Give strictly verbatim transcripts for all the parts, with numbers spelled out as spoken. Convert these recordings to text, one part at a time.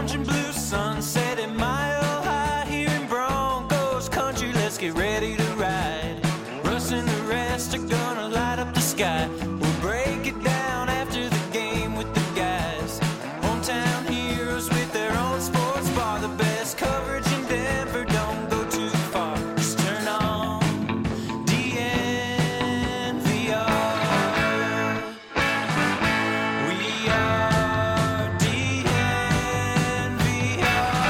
orange and blue sunset at Mile High here in Broncos country. Let's get ready to ride. Russ and the rest are gonna light up the sky. We'll break it down after the game with the guys. Hometown heroes with their own sports bar. The best coverage in Denver, don't go too far. Just turn on D N V R. We are D N V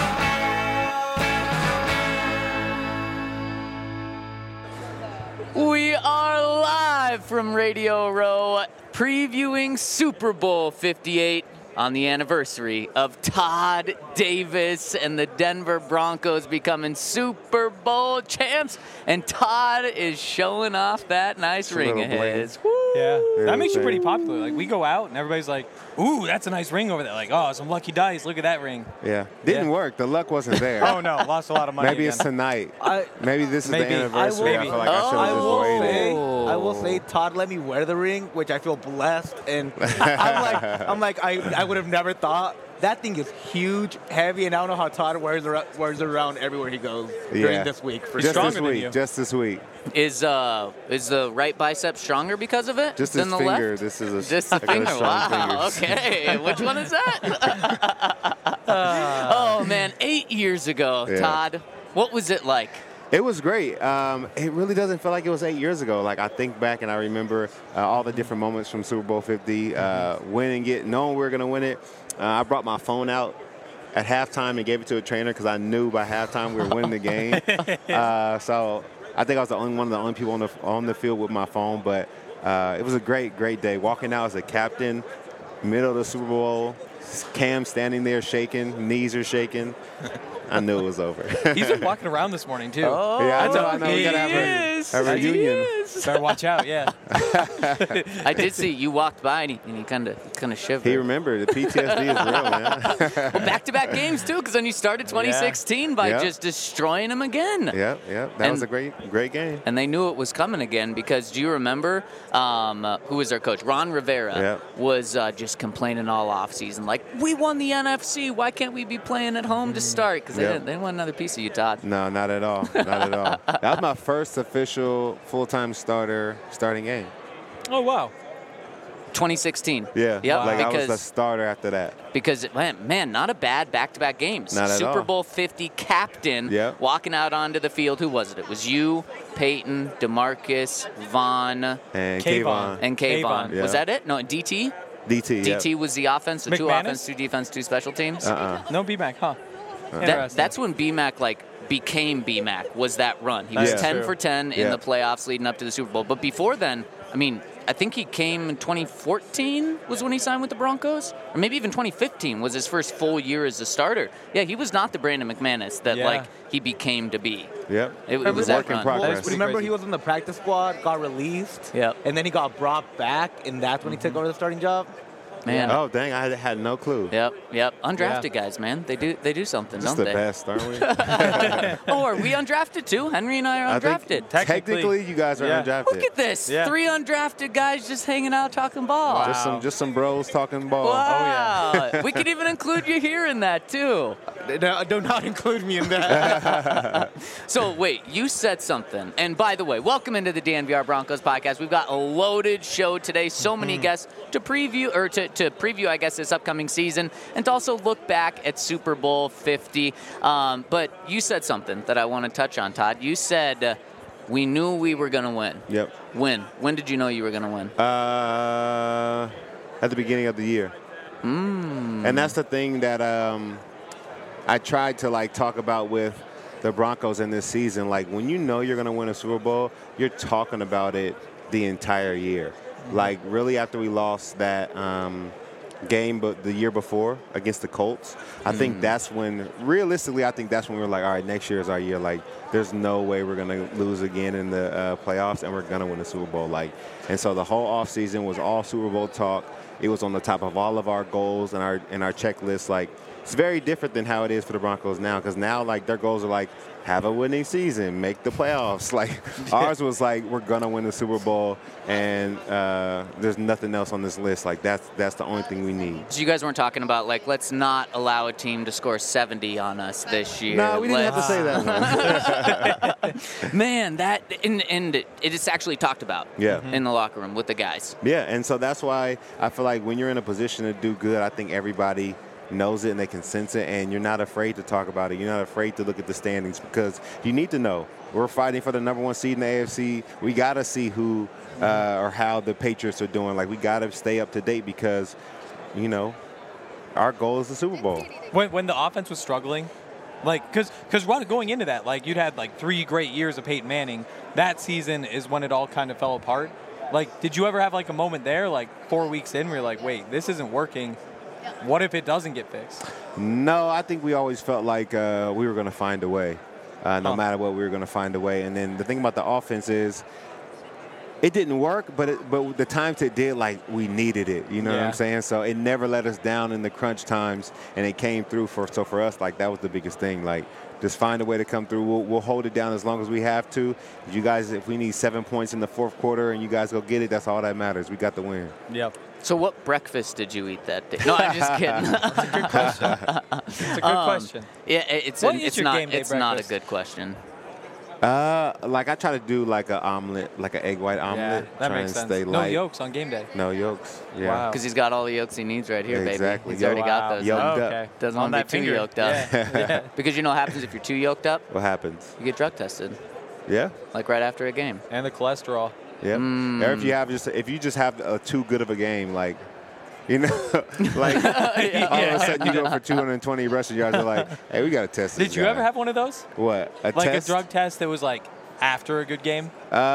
R. We are live from Radio Row, previewing Super Bowl fifty-eight on the anniversary of Todd Davis and the Denver Broncos becoming Super Bowl champs. And Todd is showing off that nice a ring little of bling. his. Woo! Yeah, Very that makes you big. pretty popular. Like, we go out and everybody's like, ooh, that's a nice ring over there. Like, oh, some lucky dice. Look at that ring. Yeah. Didn't Yeah. work. The luck wasn't there. Oh, no, lost a lot of money Maybe it's again. tonight. I, Maybe this is Maybe. the anniversary. I, I will- feel like I should Oh. have I just will waited. say, I will say, Todd let me wear the ring, which I feel blessed, and I'm like, I'm like, I, I would have never thought. That thing is huge, heavy, and I don't know how Todd wears it, wears it around everywhere he goes during Yeah. this week. For Just sure. this stronger than week. you. Just this week. Is uh is the right bicep stronger because of it Just than his the finger. left? This is a Just the I got a finger. strong Wow. fingers. Okay. Which one is that? Oh man, eight years ago, Yeah. Todd. What was it like? It was great. Um, it really doesn't feel like it was eight years ago. Like, I think back and I remember uh, all the different moments from Super Bowl fifty, uh, winning it, knowing we were going to win it. Uh, I brought my phone out at halftime and gave it to a trainer because I knew by halftime we were winning the game. uh, so I think I was the only one of the only people on the on the field with my phone. But uh, it was a great, great day. Walking out as a captain, middle of the Super Bowl, Cam standing there shaking, knees are shaking. I knew it was over. He's been walking around this morning, too. Oh, Yeah, I know, I know. We he gotta have a- is. a He reunion. is. Better watch out, yeah. I did see you walked by and he, and he kind of kind of shivered. He remembered. The P T S D is real, man. Well, back-to-back games too, because then you started twenty sixteen by Yeah. just destroying them again. Yep, yep. That And- was a great, great game. And they knew it was coming again because do you remember um, uh, who was their coach? Ron Rivera Yep. was uh, just complaining all offseason, like, we won the N F C. Why can't we be playing at home to start? Because they, Yep. didn't, they didn't want another piece of you, Todd. No, not at all. Not at all. That was my first official full-time starter starting game. Oh, wow. twenty sixteen. Yeah. Yep, Like, I was because, the starter after that. because man, man, not a bad back-to-back games. Not at Super all. Bowl fifty captain Yep. walking out onto the field. Who was it? It was you, Peyton, DeMarcus, Vaughn, And Kayvon. Kayvon. and Kayvon. Kayvon. Yeah. Was that it? No, D T? D T, D yep. T was the offense, so two McManus? offense, two defense, two special teams. Uh-uh. No B-Mac, huh? That, Interesting. that's when B-Mac like became B-Mac, was that run. He That was is ten true. for ten in Yeah. the playoffs leading up to the Super Bowl. But before then, I mean, I think he came in twenty fourteen was when he signed with the Broncos, or maybe even twenty fifteen was his first full year as a starter. Yeah, he was not the Brandon McManus that Yeah. like he became to be. Yep. It, it It was was that work in run. progress. That's pretty Remember, crazy. he was in the practice squad, got released, Yep. and then he got brought back, and that's when he took over the starting job. Man. Oh, dang. I had, had no clue. Yep, yep. Undrafted guys, man. They do they do something, Just don't the they? best, aren't we? Oh, are we undrafted too? Henry and I are I think undrafted. Technically. technically, you guys are Yeah. undrafted. Look at this. Yeah. Three undrafted guys just hanging out talking ball. Just some, Wow. just some bros talking ball. Wow. We could even include you here in that too. No, do not include me in that. So wait, you said something. And by the way, welcome into the D N V R Broncos podcast. We've got a loaded show today. So many guests to preview or to, to preview, I guess, this upcoming season and to also look back at Super Bowl fifty. Um, but you said something that I want to touch on, Todd. You said uh, we knew we were going to win. Yep. When? When did you know you were going to win? Uh, at the beginning of the year. Mm. And that's the thing that um, I tried to like talk about with the Broncos in this season. Like, when you know you're going to win a Super Bowl, you're talking about it the entire year. Like, really, after we lost that um, game but the year before against the Colts, I think that's when, realistically, I think that's when we were like, all right, next year is our year. Like, there's no way we're going to lose again in the uh, playoffs, and we're going to win the Super Bowl. Like, and so the whole offseason was all Super Bowl talk. It was on the top of all of our goals and our and our checklist. Like, it's very different than how it is for the Broncos now, because now like their goals are like have a winning season, make the playoffs. Like ours was like we're gonna win the Super Bowl, and uh, there's nothing else on this list. Like that's that's the only thing we need. So you guys weren't talking about like let's not allow a team to score seventy on us this year. No, we didn't Let's- have to say that. Man, that and and it is actually talked about. Yeah. In the locker room with the guys. Yeah, and so that's why I feel like when you're in a position to do good, I think everybody knows it and they can sense it, and you're not afraid to talk about it. You're not afraid to look at the standings, because you need to know we're fighting for the number one seed in the A F C. We got to see who uh, or how the Patriots are doing. Like, we got to stay up to date, because, you know, our goal is the Super Bowl. When, when the offense was struggling, like, because because going into that, like, you'd had, like, three great years of Peyton Manning. That season is when it all kind of fell apart. Like, did you ever have, like, a moment there, like, four weeks in where you're like, wait, this isn't working. What if it doesn't get fixed? No, I think we always felt like uh, we were going to find a way. Uh, no Huh. matter what, we were going to find a way. And then the thing about the offense is it didn't work, but it, but the times it did, like, we needed it. You know what Yeah. I'm saying? So it never let us down in the crunch times, and it came through. For So for us, like, that was the biggest thing. Like, just find a way to come through. We'll, we'll hold it down as long as we have to. You guys, if we need seven points in the fourth quarter and you guys go get it, that's all that matters. We got the win. Yep. So what breakfast did you eat that day? No, I'm just kidding. Good question. It's a good Um, question. Yeah, it- it's What an, is it's your not game day it's not a breakfast? good question. Uh, like, I try to do, like, an omelet, like an egg white omelet. Yeah, that try makes and sense. stay No light. yolks on game day. No yolks. Yeah. Wow. Because he's got all the yolks he needs right here, Exactly. baby. He's already got Wow. those. Yolked huh? up. Okay. Doesn't On want to be that too finger. yoked up. Yeah. yeah. Because you know what happens if you're too yoked up? What happens? You get drug tested, Yeah. like right after a game. And the cholesterol. Yeah. Mm. Or if you have just if you just have a too good of a game, like, you know, like all of a sudden you go for two hundred twenty rushing yards, you're like, hey, we got to test this Did you guy. ever have one of those? what a Like test? a drug test that was like after a good game?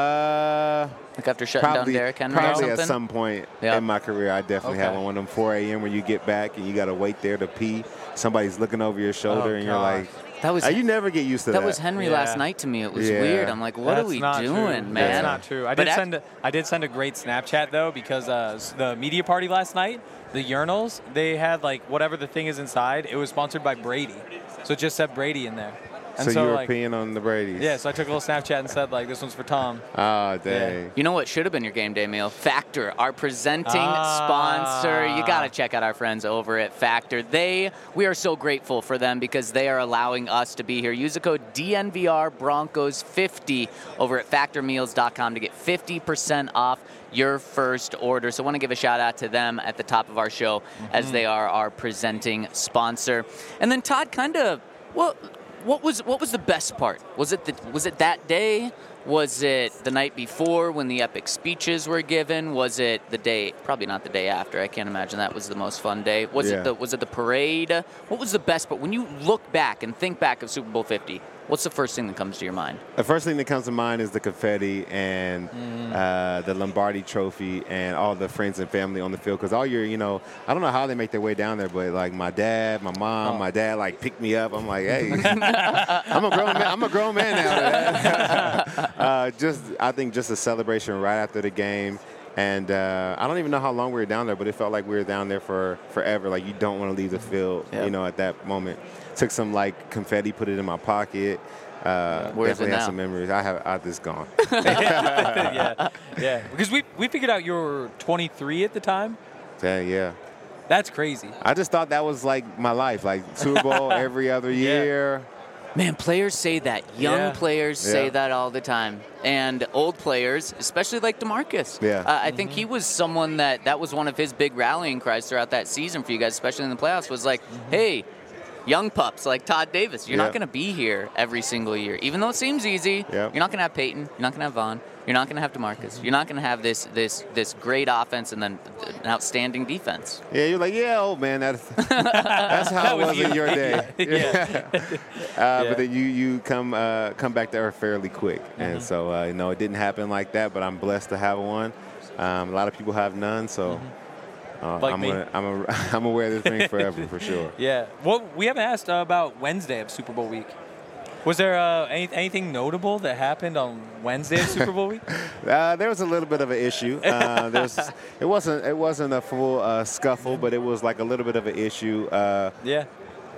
Uh, Like after shutting probably down Derrick Henry or probably something? at some point Yeah. in my career, I definitely had Okay. one. One of them four a.m. where you get back and you got to wait there to pee. Somebody's looking over your shoulder, Oh, and you're gosh. like, That was uh, you never get used to that. that was Henry Yeah. last night to me. It was Yeah. weird. I'm like, what That's are we not doing, true. man? That's not true. I But did act- send a, I did send a great Snapchat though, because uh, s- the media party last night, the urinals, they had like whatever the thing is inside. It was sponsored by Brady, so it just said Brady in there. And so, so, you were like, peeing on the Brady's. yeah, so I took a little Snapchat and said like, this one's for Tom. Oh, dang. You know what should have been your game day meal? Factor, our presenting Ah. sponsor. You got to check out our friends over at Factor. They, we are so grateful for them because they are allowing us to be here. Use the code D N V R Broncos fifty over at factor meals dot com to get fifty percent off your first order. So I want to give a shout out to them at the top of our show as they are our presenting sponsor. And then Todd, kind of, well, What was what was the best part? Was it the, was it that day? Was it the night before when the epic speeches were given? Was it the day? Probably not the day after. I can't imagine that was the most fun day. Was Yeah. it the was it the parade? What was the best part? When you look back and think back of Super Bowl fifty, what's the first thing that comes to your mind? The first thing that comes to mind is the confetti and uh, the Lombardi Trophy and all the friends and family on the field. Because all your, you know, I don't know how they make their way down there, but like my dad, my mom, Oh. my dad, like picked me up. I'm like, hey, I'm a grown man. I'm a grown man now. uh, just, I think, just a celebration right after the game. And uh, I don't even know how long we were down there, but it felt like we were down there for forever. Like, you don't want to leave the field, Yeah. you know, at that moment. Took some, like, confetti, put it in my pocket. Uh, Where is it definitely have now? some memories. I have, I just gone. yeah, yeah. Because we we figured out you were twenty-three at the time. Yeah, yeah. That's crazy. I just thought that was like my life, like Super Bowl every other year. Man, players say that. Young Yeah. players say Yeah. that all the time. And old players, especially like DeMarcus. Yeah. Uh, I think he was someone that that was one of his big rallying cries throughout that season for you guys, especially in the playoffs, was like, hey, young pups like Todd Davis, you're Yeah. not going to be here every single year. Even though it seems easy, Yeah. you're not going to have Peyton, you're not going to have Vaughn, you're not going to have DeMarcus, you're not going to have this this this great offense and then an outstanding defense. Yeah, you're like, yeah, old man, that's, that's how That it was was in you. your day. Yeah. uh, Yeah. But then you you come uh, come back to earth fairly quick, and so uh, you know it didn't happen like that. But I'm blessed to have one. Um, a lot of people have none, so uh, Like I'm me. gonna, I'm a, I'm gonna wear this ring forever for sure. Yeah. Well, we haven't asked uh, about Wednesday of Super Bowl week. Was there uh, any, anything notable that happened on Wednesday of Super Bowl week? Uh, there was a little bit of an issue. Uh, there was, it wasn't it wasn't a full uh, scuffle, but it was like a little bit of an issue. Uh, Yeah.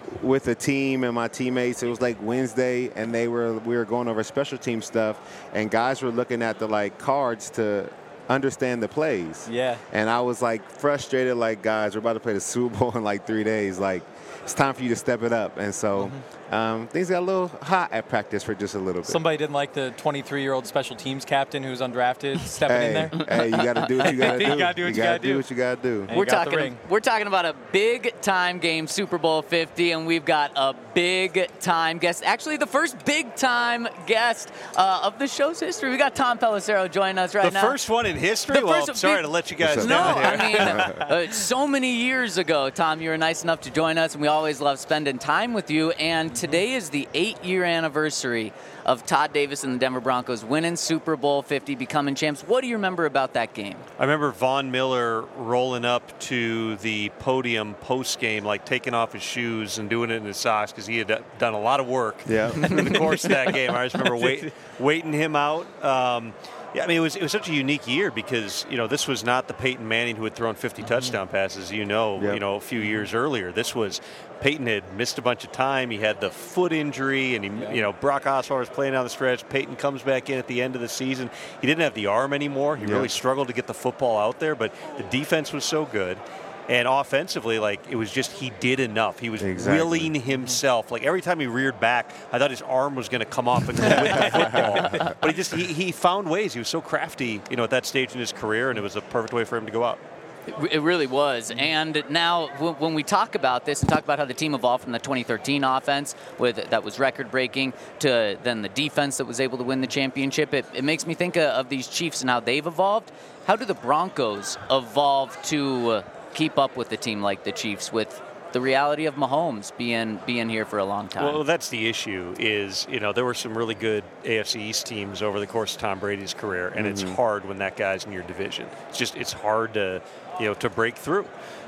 with the team and my teammates. It was like Wednesday, and they were we were going over special team stuff, and guys were looking at the like cards to understand the plays. Yeah. And I was like frustrated, like, guys, we're about to play the Super Bowl in like three days. Like, it's time for you to step it up. And so mm-hmm. um, things got a little hot at practice for just a little bit. Somebody didn't like the twenty-three-year-old special teams captain who's undrafted stepping hey, in there. Hey, you got to do what you got to do. You got to do what you, you got to do. do what you got to do. And We're got the talking. ring. We're talking about a big time game, Super Bowl fifty, and we've got a big time guest. Actually, the first big time guest uh, of the show's history. We got Tom Pelissero joining us right the now. The first one in history. The Well, first I'm sorry big, to let you guys No, down I here. mean, uh, so many years ago, Tom, you were nice enough to join us, and we always love spending time with you. And today is the eight-year anniversary of Todd Davis and the Denver Broncos winning Super Bowl fifty, becoming champs. What do you remember about that game? I remember Von Miller rolling up to the podium post-game, like taking off his shoes and doing it in his socks because he had done a lot of work Yeah. in the course of that game. I just remember wait, waiting him out. Um, Yeah, I mean, it was it was such a unique year because, you know, this was not the Peyton Manning who had thrown fifty mm-hmm. touchdown passes, you know, yep. you know, a few years earlier. This was Peyton had missed a bunch of time. He had the foot injury, and he, yeah. you know, Brock Osweiler was playing down the stretch. Peyton comes back in at the end of the season. He didn't have the arm anymore. He yep. really struggled to get the football out there, but the defense was so good. And offensively, like, it was just he did enough. He was exactly. willing himself. Like, every time he reared back, I thought his arm was going to come off and go with the football. But he just he, he found ways. He was so crafty, you know, at that stage in his career, and it was a perfect way for him to go out. It really was. And now when we talk about this and talk about how the team evolved from the twenty thirteen offense with that was record-breaking to then the defense that was able to win the championship, it, it makes me think of these Chiefs and how they've evolved. How do the Broncos evolve to keep up with the team like the Chiefs with the reality of Mahomes being being here for a long time? Well, that's the issue is, you know, there were some really good A F C East teams over the course of Tom Brady's career, and mm-hmm. it's hard when that guy's in your division. It's just, it's hard to, you know, to break through.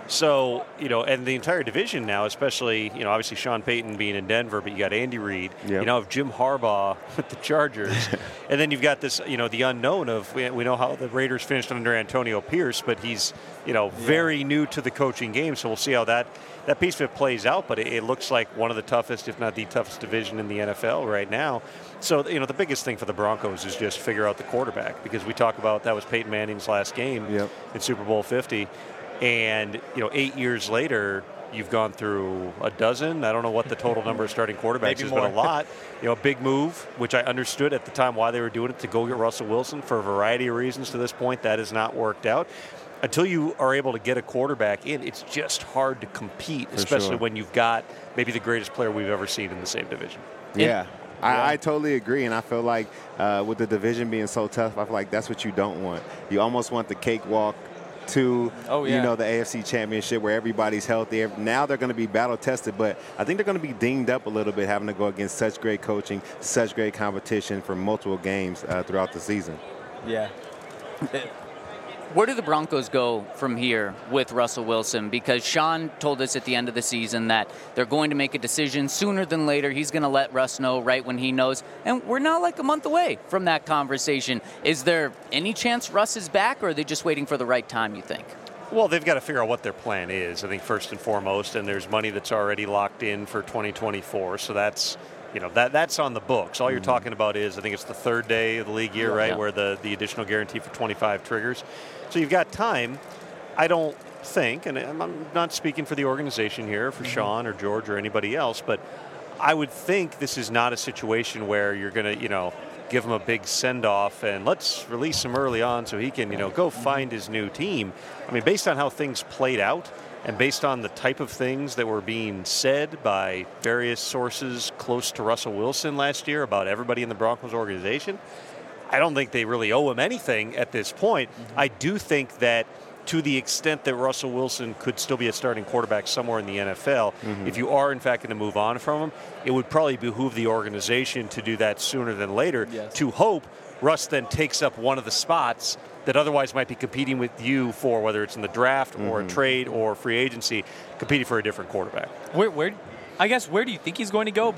So, you know, and the entire division now, especially, you know, obviously Sean Payton being in Denver, but you got Andy Reid, yep. you know, have Jim Harbaugh with the Chargers, and then you've got this, you know, the unknown of, we, we know how the Raiders finished under Antonio Pierce, but he's, you know, very yeah. new to the coaching game, so we'll see how that, that piece of it plays out, but it, it looks like one of the toughest, if not the toughest division in the N F L right now. So, you know, the biggest thing for the Broncos is just figure out the quarterback, because we talk about that was Peyton Manning's last game yep. in Super Bowl fifty. And, you know, eight years later, you've gone through a dozen. I don't know what the total number of starting quarterbacks has been, a lot. You know, a big move, which I understood at the time why they were doing it, to go get Russell Wilson for a variety of reasons to this point. That has not worked out. Until you are able to get a quarterback in, it's just hard to compete, for especially sure. when you've got maybe the greatest player we've ever seen in the same division. Yeah. Yeah. I, I totally agree, and I feel like uh, with the division being so tough, I feel like that's what you don't want. You almost want the cakewalk to, oh, yeah. you know, the A F C Championship where everybody's healthy. Now they're going to be battle-tested, but I think they're going to be dinged up a little bit having to go against such great coaching, such great competition for multiple games uh, throughout the season. Yeah. Where do the Broncos go from here with Russell Wilson? Because Sean told us at the end of the season that they're going to make a decision sooner than later. He's going to let Russ know right when he knows. And we're now like a month away from that conversation. Is there any chance Russ is back, or are they just waiting for the right time, you think? Well, they've got to figure out what their plan is, I think, first and foremost. And there's money that's already locked in for twenty twenty-four. So that's, you know, that that's on the books. All you're mm-hmm. talking about is, I think it's the third day of the league year, yeah, right, yeah. where the, the additional guarantee for twenty-five triggers. So you've got time. I don't think, and I'm not speaking for the organization here, for mm-hmm. Sean or George or anybody else, but I would think this is not a situation where you're going to, you know, give him a big send-off and let's release him early on so he can, you know, go find his new team. I mean, based on how things played out and based on the type of things that were being said by various sources close to Russell Wilson last year about everybody in the Broncos organization, I don't think they really owe him anything at this point. Mm-hmm. I do think that to the extent that Russell Wilson could still be a starting quarterback somewhere in the N F L, mm-hmm. if you are, in fact, going to move on from him, it would probably behoove the organization to do that sooner than later, yes. to hope Russ then takes up one of the spots that otherwise might be competing with you for, whether it's in the draft mm-hmm. or a trade or free agency, competing for a different quarterback. Where, where, I guess, where do you think he's going to go? But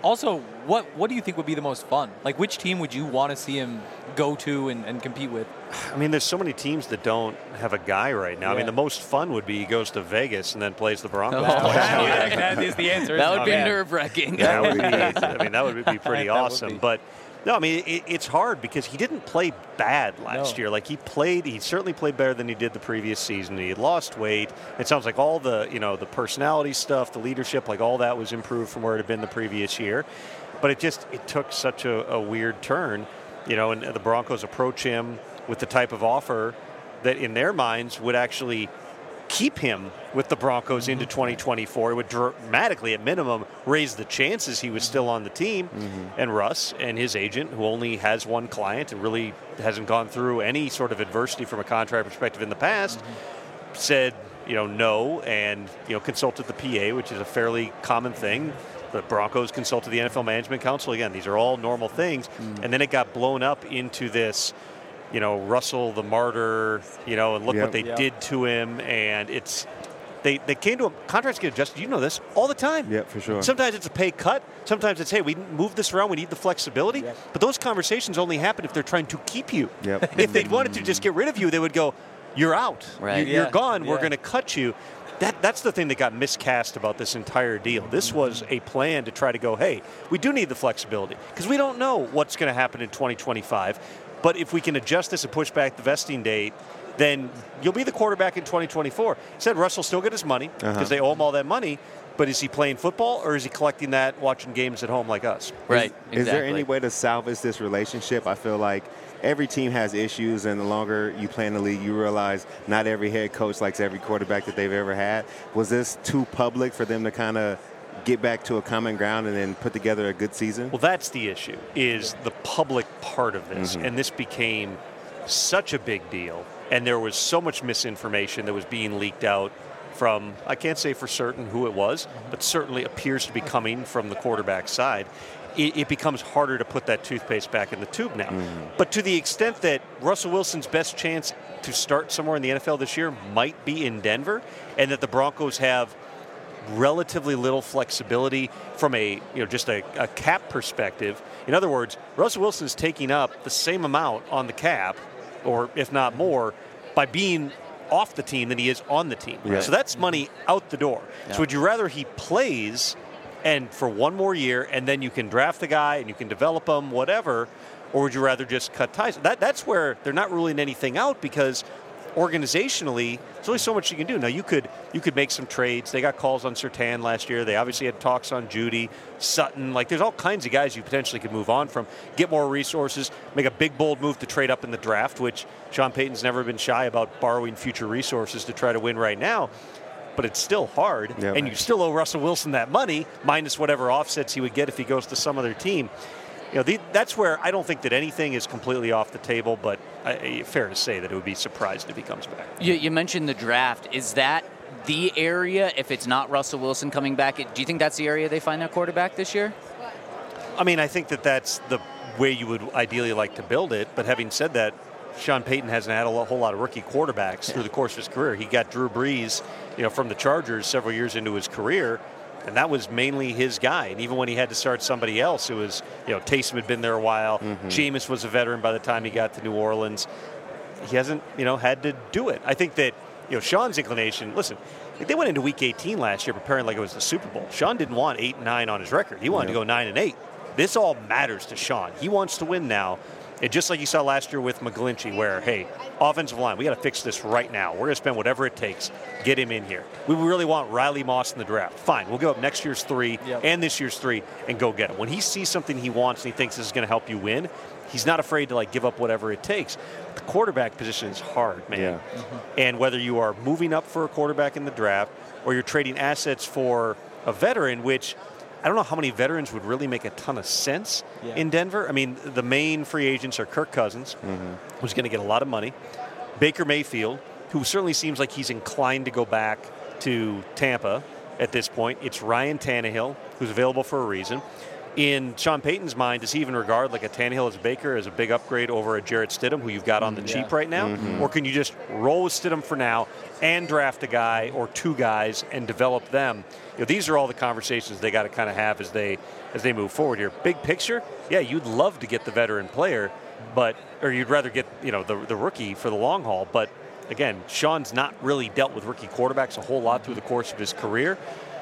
Also, what what do you think would be the most fun? Like, which team would you want to see him go to and, and compete with? I mean, there's so many teams that don't have a guy right now. I mean, Yeah. the most fun would be he goes to Vegas and then plays the Broncos. Oh, twice. Yeah, that is the answer. That isn't would it? be Yeah. nerve-wracking. That would be, I mean, that would be pretty That would awesome. be. But no, I mean, it, it's hard because he didn't play bad last No. year. Like he played, he certainly played better than he did the previous season. He had lost weight. It sounds like all the, you know, the personality stuff, the leadership, like all that was improved from where it had been the previous year. But it just, it took such a, a weird turn, you know, and the Broncos approach him with the type of offer that in their minds would actually keep him with the Broncos into twenty twenty-four. It would dramatically, at minimum, raise the chances he was still on the team. Mm-hmm. And Russ and his agent, who only has one client and really hasn't gone through any sort of adversity from a contract perspective in the past, said, you know, no, and, you know, consulted the P A, which is a fairly common thing. The Broncos consulted the N F L Management Council. Again, these are all normal things. And then it got blown up into this, you know, Russell the martyr, you know, and look Yep. what they Yep. did to him. And it's, they, they came to a, contracts get adjusted. You know this all the time. Yep, for sure. Sometimes it's a pay cut. Sometimes it's, hey, we move this around. We need the flexibility. Yep. But those conversations only happen if they're trying to keep you. Yep. If they wanted to just get rid of you, they would go, you're out. Right. You- You're Yeah. gone. We're Yeah. going to cut you. That, that's the thing that got miscast about this entire deal. This was a plan to try to go, hey, we do need the flexibility because we don't know what's going to happen in twenty twenty-five. But if we can adjust this and push back the vesting date, then you'll be the quarterback in twenty twenty-four. Said Russell still get his money because Uh-huh. they owe him all that money. But is he playing football or is he collecting that watching games at home like us? Right. Is there exactly. any way to salvage this relationship? I feel like every team has issues, and the longer you play in the league, you realize not every head coach likes every quarterback that they've ever had. Was this too public for them to kind of get back to a common ground and then put together a good season? Well, that's the issue, is the public part of this. Mm-hmm. And this became such a big deal. And there was so much misinformation that was being leaked out from, I can't say for certain who it was, but certainly appears to be coming from the quarterback side. It, it becomes harder to put that toothpaste back in the tube now. But to the extent that Russell Wilson's best chance to start somewhere in the N F L this year might be in Denver, and that the Broncos have relatively little flexibility from a, you know, just a, a cap perspective. In other words, Russell Wilson's taking up the same amount on the cap, or if not more, by being off the team than he is on the team. Right. So that's money out the door. Yeah. So would you rather he plays and for one more year and then you can draft the guy and you can develop him, whatever, or would you rather just cut ties? That, that's where they're not ruling anything out because organizationally, there's only so much you can do. Now, you could you could make some trades. They got calls on Surtain last year. They obviously had talks on Judy, Sutton. Like, there's all kinds of guys you potentially could move on from, get more resources, make a big, bold move to trade up in the draft, which Sean Payton's never been shy about borrowing future resources to try to win right now. But it's still hard, Yep. and you still owe Russell Wilson that money, minus whatever offsets he would get if he goes to some other team. You know, the, that's where I don't think that anything is completely off the table, but I, fair to say that it would be surprised if he comes back. You, you mentioned the draft. Is that the area, if it's not Russell Wilson coming back, do you think that's the area they find their quarterback this year? I mean, I think that that's the way you would ideally like to build it, but having said that, Sean Payton hasn't had a lo- whole lot of rookie quarterbacks through the course of his career. He got Drew Brees, you know, from the Chargers several years into his career, and that was mainly his guy. And even when he had to start somebody else, it was, you know, Taysom had been there a while. Mm-hmm. Jameis was a veteran by the time he got to New Orleans. He hasn't, you know, had to do it. I think that, you know, Sean's inclination, listen, they went into week eighteen last year preparing like it was the Super Bowl. Sean didn't want eight and nine on his record. He wanted Yeah. to go nine and eight. This all matters to Sean. He wants to win now. And just like you saw last year with McGlinchey, where, hey, offensive line, we got to fix this right now. We're going to spend whatever it takes, get him in here. We really want Riley Moss in the draft. Fine, we'll give up next year's three Yep. and this year's three and go get him. When he sees something he wants and he thinks this is going to help you win, he's not afraid to like give up whatever it takes. The quarterback position is hard, man. Yeah. And whether you are moving up for a quarterback in the draft or you're trading assets for a veteran, which I don't know how many veterans would really make a ton of sense Yeah. in Denver. I mean, the main free agents are Kirk Cousins, who's going to get a lot of money, Baker Mayfield, who certainly seems like he's inclined to go back to Tampa at this point. It's Ryan Tannehill, who's available for a reason. in Sean Payton's mind, does he even regard like a Tannehill as a Baker as a big upgrade over a Jarrett Stidham, who you've got on the Yeah. cheap right now? Mm-hmm. Or can you just roll with Stidham for now and draft a guy or two guys and develop them? You know, these are all the conversations they got to kind of have as they as they move forward here. Big picture, yeah, you'd love to get the veteran player, but or you'd rather get you know the the rookie for the long haul. But again, Sean's not really dealt with rookie quarterbacks a whole lot through the course of his career.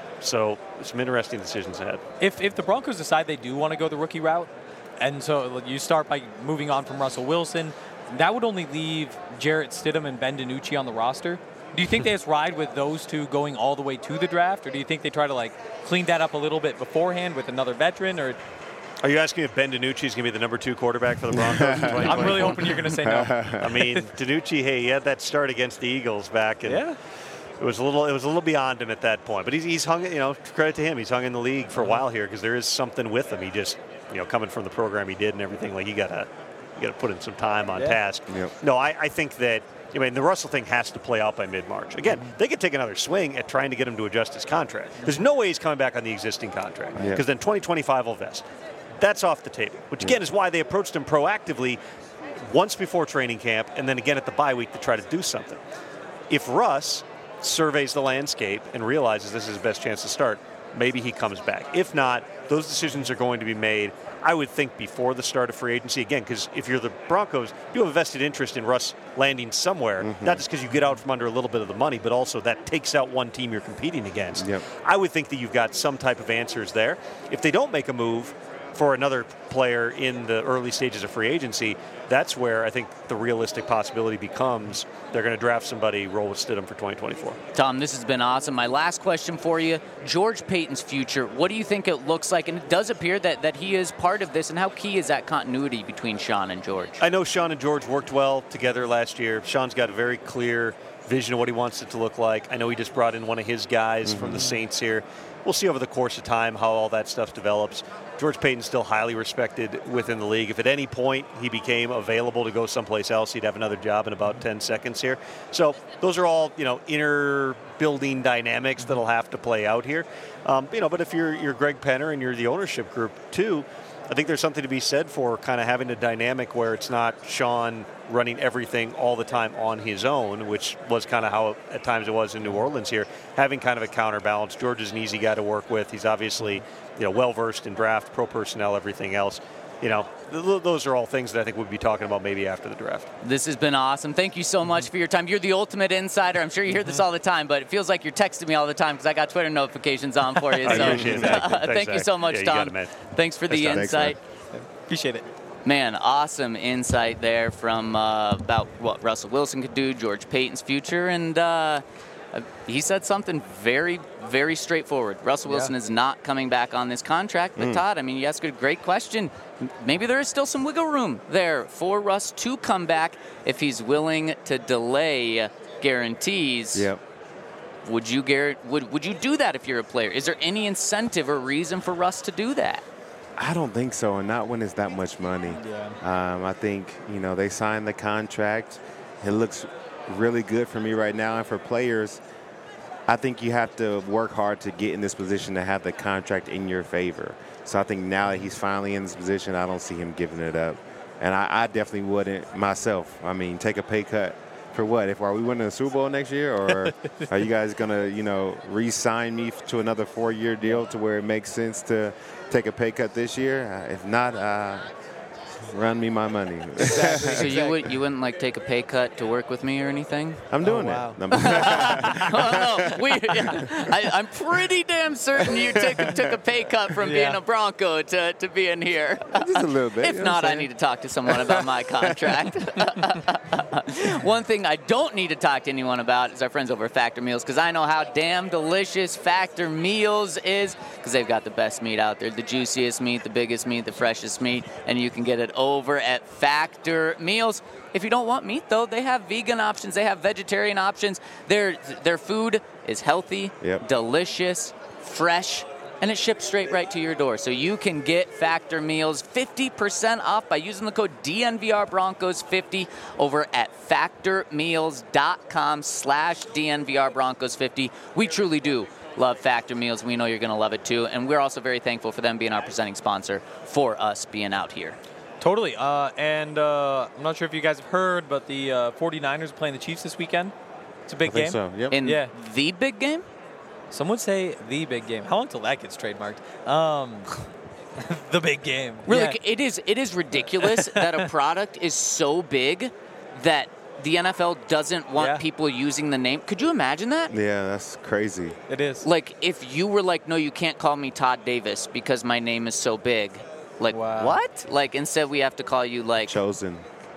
So some interesting decisions ahead. If if the Broncos decide they do want to go the rookie route, and so you start by moving on from Russell Wilson, that would only leave Jarrett Stidham and Ben DiNucci on the roster. Do you think they just ride with those two going all the way to the draft, or do you think they try to like clean that up a little bit beforehand with another veteran? Or Are you asking if Ben DiNucci is going to be the number two quarterback for the Broncos? in I'm really hoping you're going to say no. I mean, DiNucci, hey, he had that start against the Eagles back, and Yeah. it was a little, it was a little beyond him at that point. But he's, he's hung, you know, credit to him, he's hung in the league for a while here because there is something with him. He just, you know, coming from the program he did and everything, like he got to, you got to put in some time on Yeah. task. Yep. No, I, I think that. I mean, the Russell thing has to play out by mid-March. Again, they could take another swing at trying to get him to adjust his contract. There's no way he's coming back on the existing contract because Yeah. then twenty twenty-five will vest. That's off the table, which again is why they approached him proactively once before training camp and then again at the bye week to try to do something. If Russ surveys the landscape and realizes this is his best chance to start, maybe he comes back. If not, those decisions are going to be made, I would think, before the start of free agency. Again, because if you're the Broncos, you have a vested interest in Russ landing somewhere, Mm-hmm. not just because you get out from under a little bit of the money, but also that takes out one team you're competing against. Yep. I would think that you've got some type of answers there. If they don't make a move for another player in the early stages of free agency, that's where I think the realistic possibility becomes they're going to draft somebody, roll with Stidham for twenty twenty-four. Tom, this has been awesome. My last question for you, George Paton's future, what do you think it looks like? And it does appear that, that he is part of this, and how key is that continuity between Sean and George? I know Sean and George worked well together last year. Sean's got a very clear vision of what he wants it to look like. I know he just brought in one of his guys mm-hmm. from the Saints here. We'll see over the course of time how all that stuff develops. George Paton's still highly respected within the league. If at any point he became available to go someplace else, he'd have another job in about ten seconds here. So those are all, you know, inner building dynamics that'll have to play out here. Um, you know, but if you're you're Greg Penner and you're the ownership group too, I think there's something to be said for kind of having a dynamic where it's not Sean running everything all the time on his own, which was kind of how at times it was in New Orleans here, having kind of a counterbalance. George is an easy guy to work with. He's obviously, you know, well-versed in draft, pro personnel, everything else. You know, th- those are all things that I think we'll be talking about maybe after the draft. This has been awesome. Thank you so much for your time. You're the ultimate insider. I'm sure you hear this all the time, but it feels like you're texting me all the time because I got Twitter notifications on for you. I So appreciate that. Thanks, thank you Zach. so much, Yeah, you Tom. got it, man. Thanks for the Thanks, Tom. insight. Appreciate it. Man, awesome insight there from uh, about what Russell Wilson could do, George Paton's future, and uh, he said something very, very straightforward. Russell Yeah. Wilson is not coming back on this contract, but Todd, I mean, you asked a great question. Maybe there is still some wiggle room there for Russ to come back if he's willing to delay guarantees. Yep. Would you, Garrett, would, would you do that if you're a player? Is there any incentive or reason for Russ to do that? I don't think so, and not when it's that much money. Yeah. Um, I think, you know, they signed the contract. It looks really good for me right now, and for players, I think you have to work hard to get in this position to have the contract in your favor. So I think now that he's finally in this position, I don't see him giving it up. And I, I definitely wouldn't myself. I mean, take a pay cut for what? If are we winning the Super Bowl next year, or are you guys gonna, you know, re-sign me to another four-year deal to where it makes sense to take a pay cut this year? Uh, if not, uh, run me my money. So you would you wouldn't like take a pay cut to work with me or anything? I'm doing Oh, wow. that. Oh, no. we, yeah. I, I'm pretty damn certain you took, took a pay cut from being Yeah. a Bronco to, to being here. Just a little bit. If you know not, what I I'm need saying? to talk to someone about my contract. One thing I don't need to talk to anyone about is our friends over at Factor Meals, because I know how damn delicious Factor Meals is, because they've got the best meat out there, the juiciest meat, the biggest meat, the freshest meat, and you can get it over at Factor Meals. If you don't want meat, though, they have vegan options. They have vegetarian options. Their, their food is healthy, Yep. delicious, fresh, and it ships straight right to your door. So you can get Factor Meals fifty percent off by using the code D N V R Broncos fifty over at factormeals.com slash DNVR Broncos 50. We truly do love Factor Meals. We know you're going to love it too. And we're also very thankful for them being our presenting sponsor for us being out here. Totally. Uh, and uh, I'm not sure if you guys have heard, but the uh, 49ers are playing the Chiefs this weekend. It's a big I think game. so. Yep. In Yeah. the big game? Some would say the big game. How long till that gets trademarked? Um, the big game. Really, Yeah. it is it is ridiculous that a product is so big that the N F L doesn't want Yeah. people using the name. Could you imagine that? Yeah, that's crazy. It is. Like, if you were like, no, you can't call me Todd Davis because my name is so big. Like, Wow. what? Like, instead we have to call you, like, Chosen.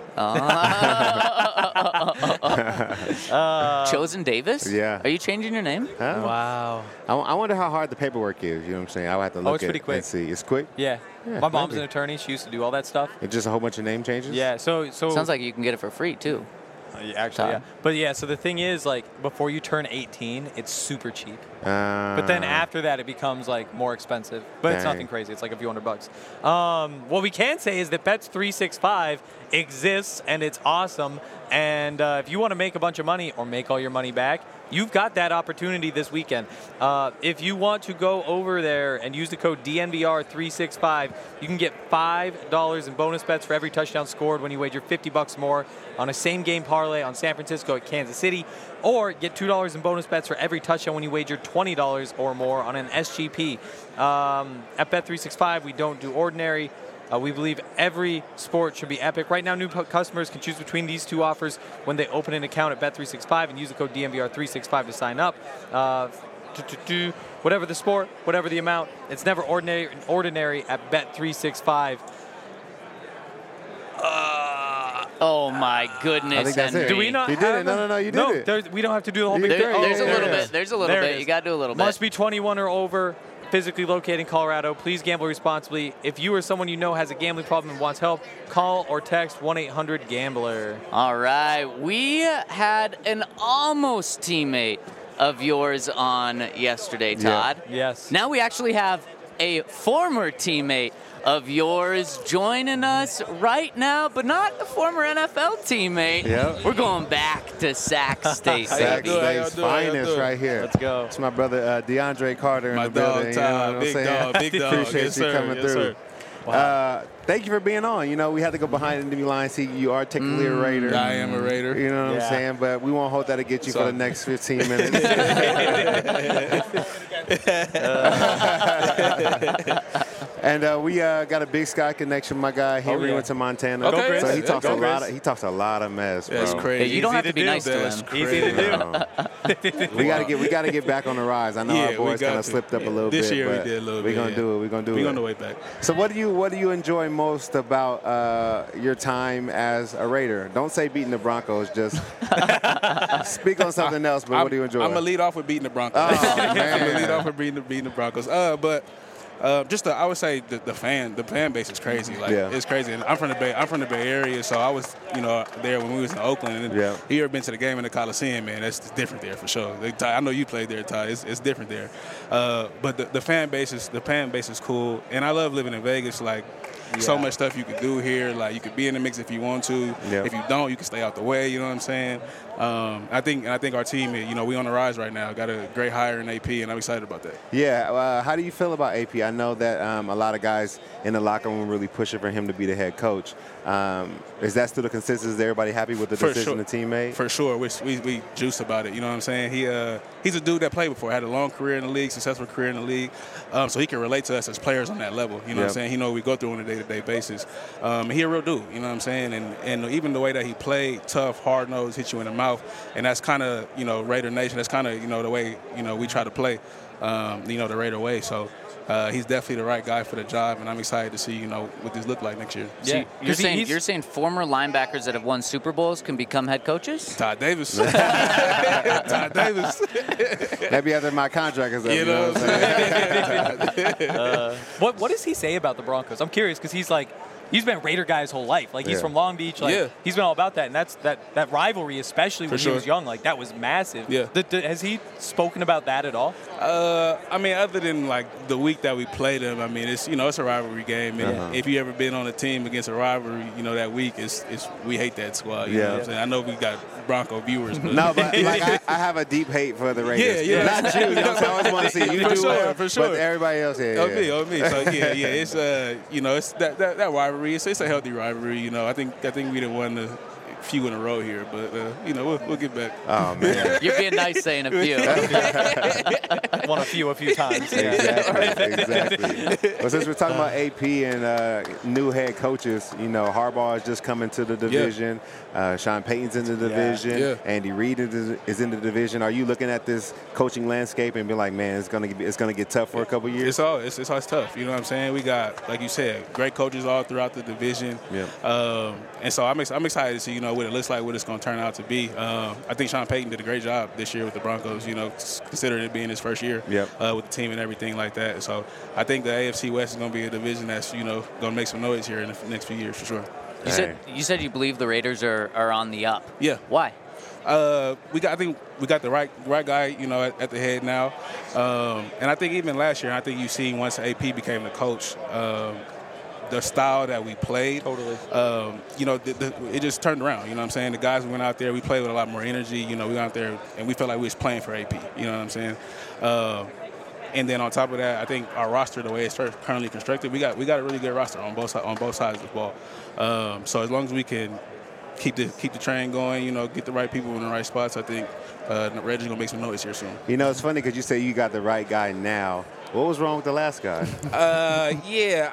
uh, Chosen Davis? Yeah. Are you changing your name? Huh? Wow. I, I wonder how hard the paperwork is. You know what I'm saying? I would have to look Oh, it's at pretty it quick. and see. It's quick. Yeah. Yeah, My mom's maybe. an attorney. She used to do all that stuff. It's just a whole bunch of name changes. Yeah. So so Sounds like you can get it for free, too. Uh, yeah, actually, yeah. Todd. But yeah, so the thing is, like, before you turn eighteen, it's super cheap. Uh, But then after that, it becomes like more expensive. But it's Dang. nothing crazy. It's like a few hundred bucks. Um, what we can say is that Bets three sixty-five exists and it's awesome. And uh, if you want to make a bunch of money or make all your money back, you've got that opportunity this weekend. Uh, if you want to go over there and use the code D N V R three sixty-five, you can get five dollars in bonus bets for every touchdown scored when you wager fifty bucks more on a same-game parlay on San Francisco at Kansas City, or get two dollars in bonus bets for every touchdown when you wager twenty dollars or more on an S G P. Um, at Bet three sixty-five, we don't do ordinary. Uh, we believe every sport should be epic. Right now, new pu- customers can choose between these two offers when they open an account at Bet three sixty-five and use the code D N V R three sixty-five to sign up. Uh, do, do, do, whatever the sport, whatever the amount, it's never ordinary ordinary at Bet three sixty-five. Uh, Oh, my goodness. I think that's Henry. it. do we not You did have it. No, them? no, no, you did no, it. there's- we don't have to do the whole big There- thing. there's a there little it bit. is. There's a little There it bit. is. You got to do a little bit. Must be twenty-one or over, physically located in Colorado. Please gamble responsibly. If you or someone you know has a gambling problem and wants help, call or text one eight hundred gambler. All right. We had an almost teammate of yours on yesterday, Todd. Yes. Now we actually have a former teammate of yours joining us right now, but not a former N F L teammate. Yep. We're going back to Sac State, Sac baby. doing? How y'all State's doing? How y'all finest doing? right here. Let's go. It's my brother uh, DeAndre Carter in My the dog, building. You know Todd, what I'm big saying? dog, big dog. Appreciate Yes, you sir. coming Yes, through. sir. Uh, thank you for being on. You know, we had to go behind enemy lines. See, you are technically a Raider. I am a Raider. You know what Yeah. I'm saying? But we won't hold that against you So- for the next fifteen minutes. And uh, we uh, got a Big Sky connection. My guy Henry yeah. went to Montana, Okay. so he Yeah, talks go a lot. Grizz. Of, he talks a lot of mess, bro. That's crazy. Hey, you don't Easy have to to be do. nice to That's him. Easy to do. Um, we gotta get we gotta get back on the rise. I know Yeah, our we boys got kind of to. slipped up a Yeah. little This bit. year we but did a little We're bit, gonna yeah. do it. We're gonna do We're it. on the way back. So what do you what do you enjoy most about uh, your time as a Raider? Don't say beating the Broncos. Just speak on something else. But what do you enjoy? I'm gonna lead off with beating the Broncos. Oh, I'm man. gonna lead off with beating the, beating the Broncos. Uh, but uh, just the, I would say the, the fan the fan base is crazy. Like Yeah. it's crazy. And I'm from the Bay. I'm from the Bay Area, so I was you know there when we was in Oakland. And Yeah. you ever been to the game in the Coliseum? Man, that's different there for sure. Like, Ty, I know you played there, Ty. It's, it's different there. Uh, but the, the fan base is the fan base is cool, and I love living in Vegas. Like. So Yeah. much stuff you could do here. Like you could be in the mix if you want to. Yeah. If you don't, you can stay out the way. You know what I'm saying? Um, I think and I think our team, you know, we on the rise right now. Got a great hire in A P, and I'm excited about that. Yeah. Uh, how do you feel about A P? I know that um, a lot of guys in the locker room really pushing for him to be the head coach. Um, is that still the consensus? Is everybody happy with the For decision sure. the team made? For sure, we, we we juice about it. You know what I'm saying? He uh he's a dude that played before, had a long career in the league, successful career in the league, um, so he can relate to us as players on that level. You know what Yep. I'm saying? He know what we go through on a day-to-day basis. Um, he a real dude. You know what I'm saying? And and even the way that he played, tough, hard nosed, hit you in the mouth, and that's kind of you know Raider Nation. That's kind of you know the way you know we try to play. Um, you know the Raider way. So. Uh, he's definitely the right guy for the job, and I'm excited to see, you know, what this look like next year. Yeah. You're 'Cause he- saying he's- you're saying former linebackers that have won Super Bowls can become head coaches? Todd Davis. Todd Davis. Maybe after my contract is up. You know what I'm saying? What What does he say about the Broncos? I'm curious because he's like he's been a Raider guy his whole life. Like he's Yeah. from Long Beach. Like Yeah. he's been all about that, and that's that that rivalry, especially when sure. he was young. Like that was massive. Yeah. Th- th- has he spoken about that at all? Uh, I mean, other than like the week that we played them, I mean, it's you know it's a rivalry game, and Uh-huh. if you ever been on a team against a rivalry, you know that week it's it's we hate that squad. You Yeah. know what I'm saying? I know we got Bronco viewers, but No, but like I, I have a deep hate for the Raiders. Yeah, yeah. Not you. You know, what I'm saying? I always want to see you For do sure, well, for sure. But everybody else, yeah, Oh yeah. me, oh me. So yeah, yeah. It's uh, you know, it's that that, that rivalry. It's, it's a healthy rivalry. You know, I think I think we done won the few in a row here, but uh, you know, we'll, we'll get back. Oh man. You're being nice saying a few. Won a few a few times. Yeah. Exactly, exactly. Well, since we're talking about A P and uh, new head coaches, you know, Harbaugh is just coming to the division. Uh, Sean Payton's in the division. Yeah. Andy Reid is, is in the division. Are you looking at this coaching landscape and be like, man, it's gonna be, it's gonna get tough for a couple years? It's all it's, it's always tough. You know what I'm saying? We got, like you said, great coaches all throughout the division. Yeah. Um, and so I'm ex- I'm excited to see you know what it looks like, what it's going to turn out to be. Um, I think Sean Payton did a great job this year with the Broncos. You know, s- considering it being his first year Yep. uh, with the team and everything like that. So I think the A F C West is going to be a division that's you know going to make some noise here in the f- next few years for sure. You said you said you believe the Raiders are, are on the up. Yeah. Why? Uh, we got. I think we got the right right guy, you know, at, at the head now. Um, and I think even last year, I think you see once A P became the coach, um, the style that we played. Totally. Um, you know, the, the, it just turned around. You know what I'm saying? The guys who went out there, we played with a lot more energy. You know, we went out there and we felt like we was playing for A P. You know what I'm saying? Uh, and then on top of that, I think our roster, the way it's currently constructed, we got we got a really good roster on both on both sides of the ball. Um, so as long as we can keep the keep the train going, you know, get the right people in the right spots, I think uh, Reggie's gonna make some noise here soon. You know, it's funny because you say you got the right guy now. What was wrong with the last guy? Uh, yeah,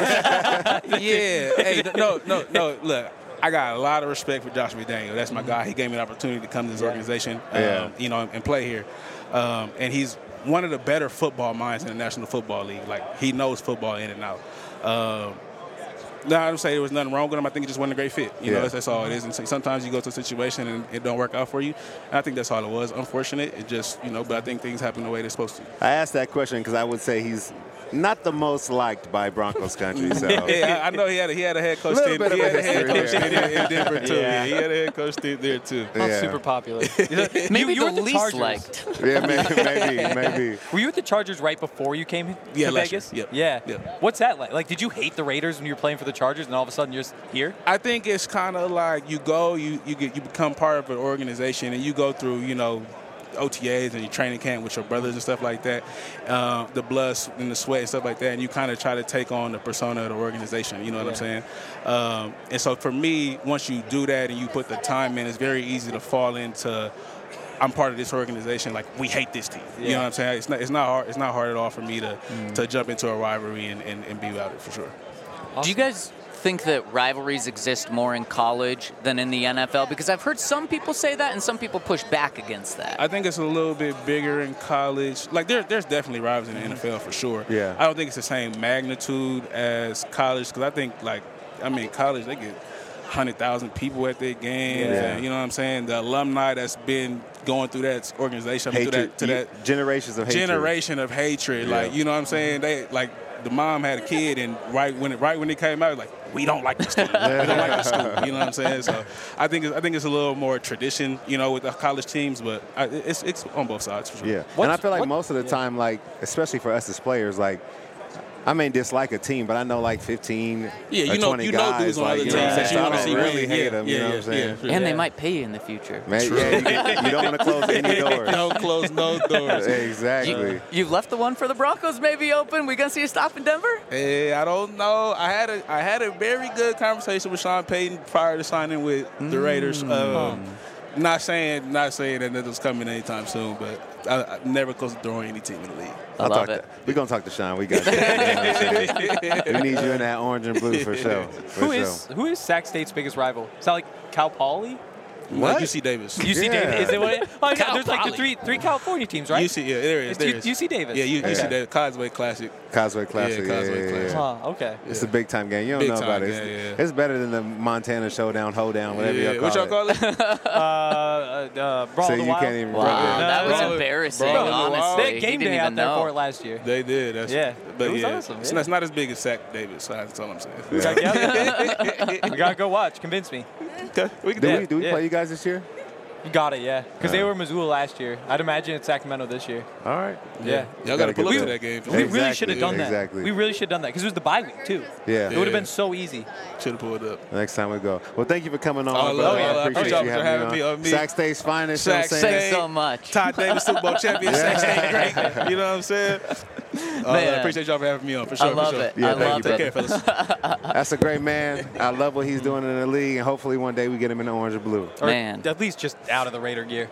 I remember. yeah, hey, no, no, no. Look, I got a lot of respect for Josh McDaniel. That's my guy. He gave me an opportunity to come to this organization, um, Yeah. you know, and play here. Um, and he's one of the better football minds in the National Football League. Like he knows football in and out. Um, No, I don't say there was nothing wrong with him. I think it just wasn't a great fit. You Yeah. know, that's, that's all it is. And so- sometimes you go to a situation and it don't work out for you. And I think that's all it was. Unfortunate. It just, you know, but I think things happen the way they're supposed to. I asked that question because I would say he's not the most liked by Broncos country. So Yeah, I, I know he had a, he had a head coach Little stint. bit He of had a a head history coach there. stint in, in Denver too. Yeah. Yeah, he had a head coach stint there too. Not Yeah. super popular. Maybe you were the the least Chargers. liked. yeah, maybe, maybe, maybe. Were you with the Chargers right before you came Yeah, to last year. Vegas? Yep. Yeah. Yep. What's that like? Like, did you hate the Raiders when you were playing for the Chargers, and all of a sudden you're just here? I think it's kind of like you go, you you get you become part of an organization, and you go through, you know, O T As and your training camp with your brothers and stuff like that, uh, the blood and the sweat and stuff like that, and you kind of try to take on the persona of the organization. You know what I'm saying? Um, and so for me, once you do that and you put the time in, it's very easy to fall into. I'm part of this organization. Like we hate this team. You Yeah. know what I'm saying? It's not. It's not hard. It's not hard at all for me to Mm. to jump into a rivalry and, and, and be about it for sure. Do you guys think that rivalries exist more in college than in the N F L? Because I've heard some people say that and some people push back against that. I think it's a little bit bigger in college. Like there, there's definitely rivals in the N F L for sure. Yeah. I don't think it's the same magnitude as college because I think like, I mean, college they get one hundred thousand people at their games. Yeah. And, you know what I'm saying? The alumni that's been going through that organization, I mean, through Hatred, that, to you- that generations of hatred. generation of hatred. Yeah. Like, you know what I'm saying? They like the mom had a kid, and right when it, right when it came out, like we don't like this school. We don't like this school. You know what I'm saying? So I think it's, I think it's a little more tradition, you know, with the college teams, but I, it's it's on both sides for sure. Yeah, and What's- I feel like what- most of the time, like especially for us as players, like I may dislike a team, but I know like fifteen Yeah, you or know- twenty you know guys, dudes on like, other you know what I'm teams saying? that you So I wanna don't see really win. hate Yeah, them. You yeah, know what I'm yeah, saying? yeah. and they Yeah. might pay you in the future. Man, yeah, you, get- you don't want to close any doors. Don't close no doors. Exactly. You, you've left the one for the Broncos maybe open. We gonna see a stop in Denver? Hey, I don't know. I had a I had a very good conversation with Sean Payton prior to signing with the Raiders. Um, not saying not saying that it was coming anytime soon, but I, I never close the door on any team in the league. I I'll love talk it. To, we're gonna talk to Sean. We got you. You know what I'm saying? We need you in that orange and blue for sure. For Who sure. is who is Sac State's biggest rival? Is that like Cal Poly? Like U C Davis. U C Yeah. Davis. Is it what? It, oh, yeah, Cal there's like the Poly. three three California teams, right? U C, yeah, there is. It's There U- is. U C Davis. Yeah, U- Yeah. UC Davis. Causeway Classic. Causeway Classic. Yeah, Yeah, Causeway yeah, Classic. yeah. Huh, okay. It's a big time game. You don't Big know time, about it. yeah, It's, yeah. it's better than the Montana Showdown, Hoedown, whatever Yeah, you what call y'all it. call it? Uh, uh, uh, Brawl So of the you Wild. can't even. Wow, Yeah. that was Bro, embarrassing, bro, honestly. They had He game didn't day out even there know. for it last year. They did. That's, Yeah. But It was yeah, awesome, It's, yeah. not, it's not as big as Sac Davis. So that's all I'm saying. It's like, yeah, we gotta go watch. Convince me. Okay, we can Do do we, it. do we Yeah. play you guys this year? You got it, yeah. Because they Uh. were Missoula last year. I'd imagine it's Sacramento this year. All right. Yeah. Y'all got Gotta to pull get up to there. that game. We really Exactly, should have done that. exactly. We really should have done that because it was the bye week too. Yeah. It would have Yeah. been so easy. Should have pulled up. Next time we go. Well, thank you for coming on. Oh, I brother. love it. I I appreciate appreciate you y'all for having having me me on. on. Me- Sac State's finest. you know what I'm Sac saying? Thanks State. so much. Todd Davis, Super Bowl champion, Sac State great. You know what I'm saying? Uh, I Man. appreciate y'all for having me on, for sure. I love for sure. it. Yeah, I thank love you, Take it. care, fellas. That's a great man. I love what he's doing in the league, and hopefully one day we get him in the orange or blue. Or Man. at least just out of the Raider gear.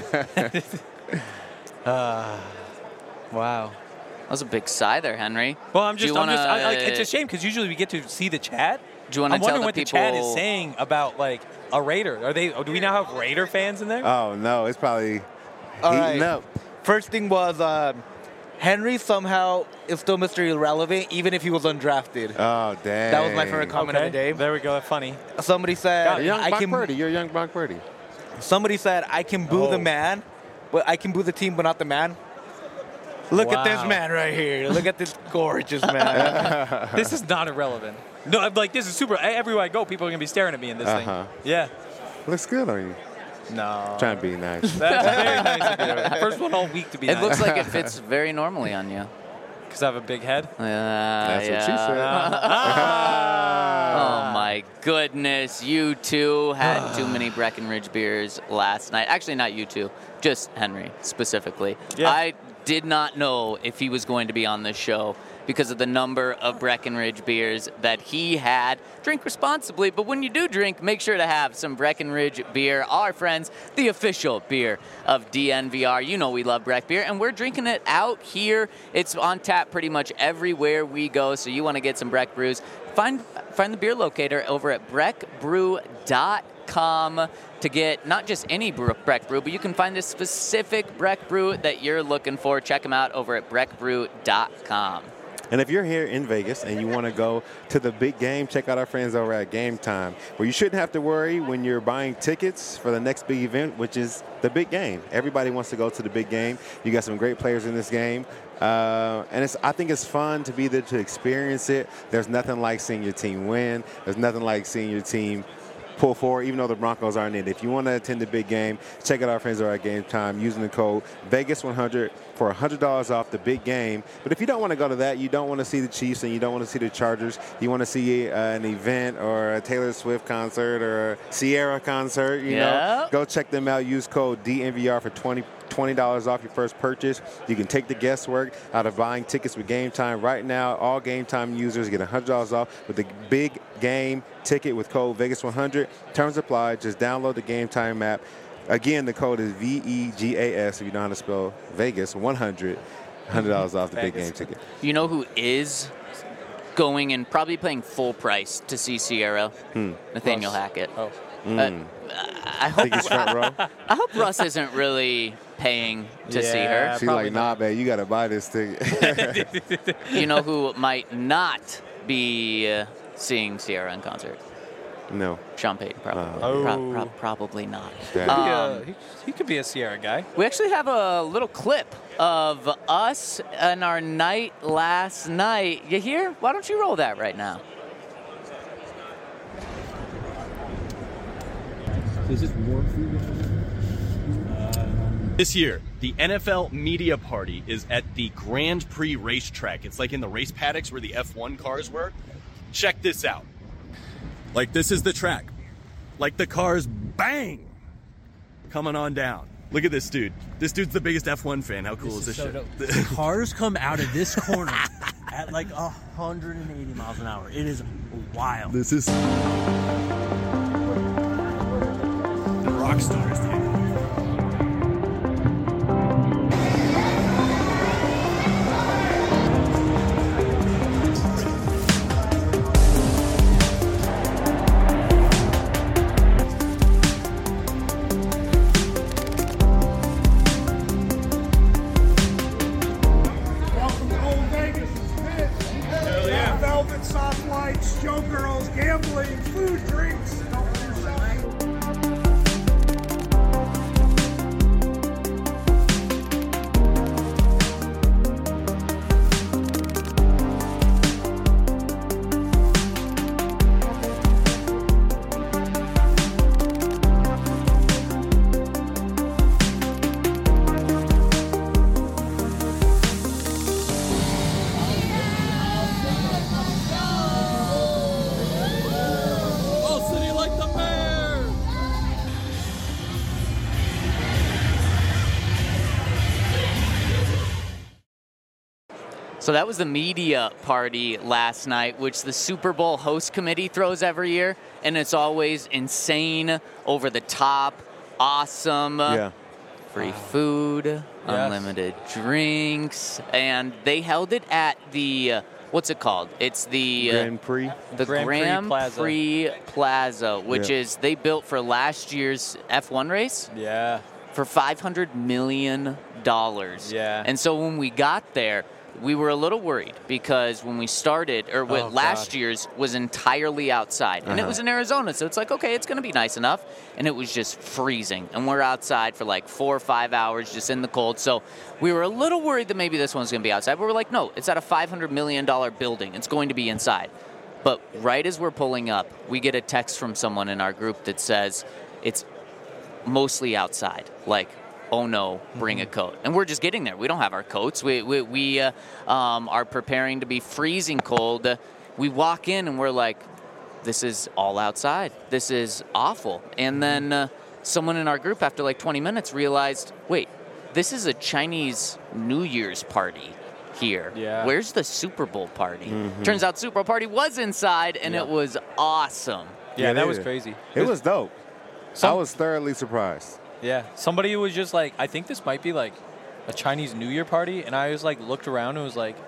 uh, wow. That was a big sigh there, Henry. Well, I'm Do you just, I'm just I, like, wanna- it's a shame because usually we get to see the chat. Do you wanna I'm tell wondering the what the chat is people- saying about like a Raider. Are they? Do we now have Raider fans in there? Oh no, it's probably All heating right. up. First thing was um, Henry somehow is still Mister Irrelevant, even if he was undrafted. Oh dang. That was my favorite comment of the day. There we go. Funny. Somebody said, You're young I Brock can. Purdy. You're a young Brock Purdy. Somebody said, I can boo Oh. the man, but I can boo the team, but not the man. Look at this Wow. man right here. Look at this gorgeous man. This is not irrelevant. No, I'm like this is super. Everywhere I go, people are gonna be staring at me in this Uh-huh. thing. Yeah. Looks good on you. No. Trying to be nice. That's very nice of you. First one all week to be It nice. looks like it fits very normally on you. because I have a big head. Uh, That's yeah. what she said. Oh my goodness, you two had too many Breckenridge beers last night. Actually, not you two, just Henry specifically. Yeah. I did not know if he was going to be on this show because of the number of Breckenridge beers that he had. Drink responsibly, but when you do drink, make sure to have some Breckenridge beer. Our friends, the official beer of D N V R. You know we love Breck beer, and we're drinking it out here. It's on tap pretty much everywhere we go, so you want to get some Breck brews. Find, find the beer locator over at breck brew dot com to get not just any Breck brew, but you can find the specific Breck brew that you're looking for. Check them out over at breck brew dot com. And if you're here in Vegas and you want to go to the big game, check out our friends over at Game Time, where you shouldn't have to worry when you're buying tickets for the next big event, which is the big game. Everybody wants to go to the big game. You got some great players in this game. Uh, and it's, I think it's fun to be there to experience it. There's nothing like seeing your team win. There's nothing like seeing your team pull forward, even though the Broncos aren't in it. If you want to attend the big game, check out our friends over at Game Time using the code Vegas one hundred for one hundred dollars off the big game. But if you don't want to go to that, you don't want to see the Chiefs and you don't want to see the Chargers, you want to see uh, an event or a Taylor Swift concert or a Sierra concert, you Yeah. know, go check them out. Use code D N V R for twenty dollars off your first purchase. You can take the guesswork out of buying tickets with Game Time. Right now, all Game Time users get one hundred dollars off with the big game ticket with code Vegas one hundred. Terms apply. Just download the Game Time app. Again, the code is V E G A S if you know how to spell Vegas one hundred. one hundred dollars off the big game Vegas. ticket. You know who is going and probably paying full price to see Sierra? Hmm. Nathaniel Russ. Hackett. Oh. Uh, I I hope think it's front row. I hope Russ isn't really paying to see Yeah. her. She's probably like, nah, man, you got to buy this ticket. You know who might not be uh, seeing Sierra in concert? No. Sean Payton, probably. Oh. Pro- pro- probably not. Damn. He, uh, Um, he, he could be a Sierra guy. We actually have a little clip of us and our night last night. You hear? Why don't you roll that right now? Is this warm for you? This year, the N F L Media Party is at the Grand Prix racetrack. It's like in the race paddocks where the F one cars were. Check this out. Like, this is the track. Like, the cars, bang, coming on down. Look at this dude. This dude's the biggest F one fan. How cool is this shit? Cars come out of this corner at like one hundred eighty miles an hour. It is wild. This is... The rock stars, dude. So that was the media party last night, which the Super Bowl host committee throws every year, and it's always insane, over the top, awesome. Yeah. Free food, yes. Unlimited drinks, and they held it at the uh, what's it called? It's the Grand Prix. The Grand Prix Grand Plaza. Prix Plaza, which Yeah. is they built for last year's F one race Yeah. for five hundred million dollars. Yeah. And so when we got there, we were a little worried because when we started, or what Oh, last God. year's was entirely outside. And it Uh-huh. was in Arizona, so it's like, okay, it's going to be nice enough. And it was just freezing. And we're outside for like four or five hours just in the cold. So we were a little worried that maybe this one's going to be outside. But we're like, no, it's at a five hundred million dollars building. It's going to be inside. But right as we're pulling up, we get a text from someone in our group that says it's mostly outside. Like, oh no, bring a coat. And we're just getting there. We don't have our coats. We, we, we uh, um, are preparing to be freezing cold. Uh, we walk in and we're like, this is all outside. This is awful. And then uh, someone in our group after like twenty minutes realized, wait, this is a Chinese New Year's party here. Yeah. Where's the Super Bowl party? Turns out Super Bowl party was inside, and Yeah. it was awesome. Yeah, Yeah, that it was is. crazy. It was dope. Some- I was thoroughly surprised. Yeah, somebody was just like, I think this might be like a Chinese New Year party, and I was like, looked around and was like,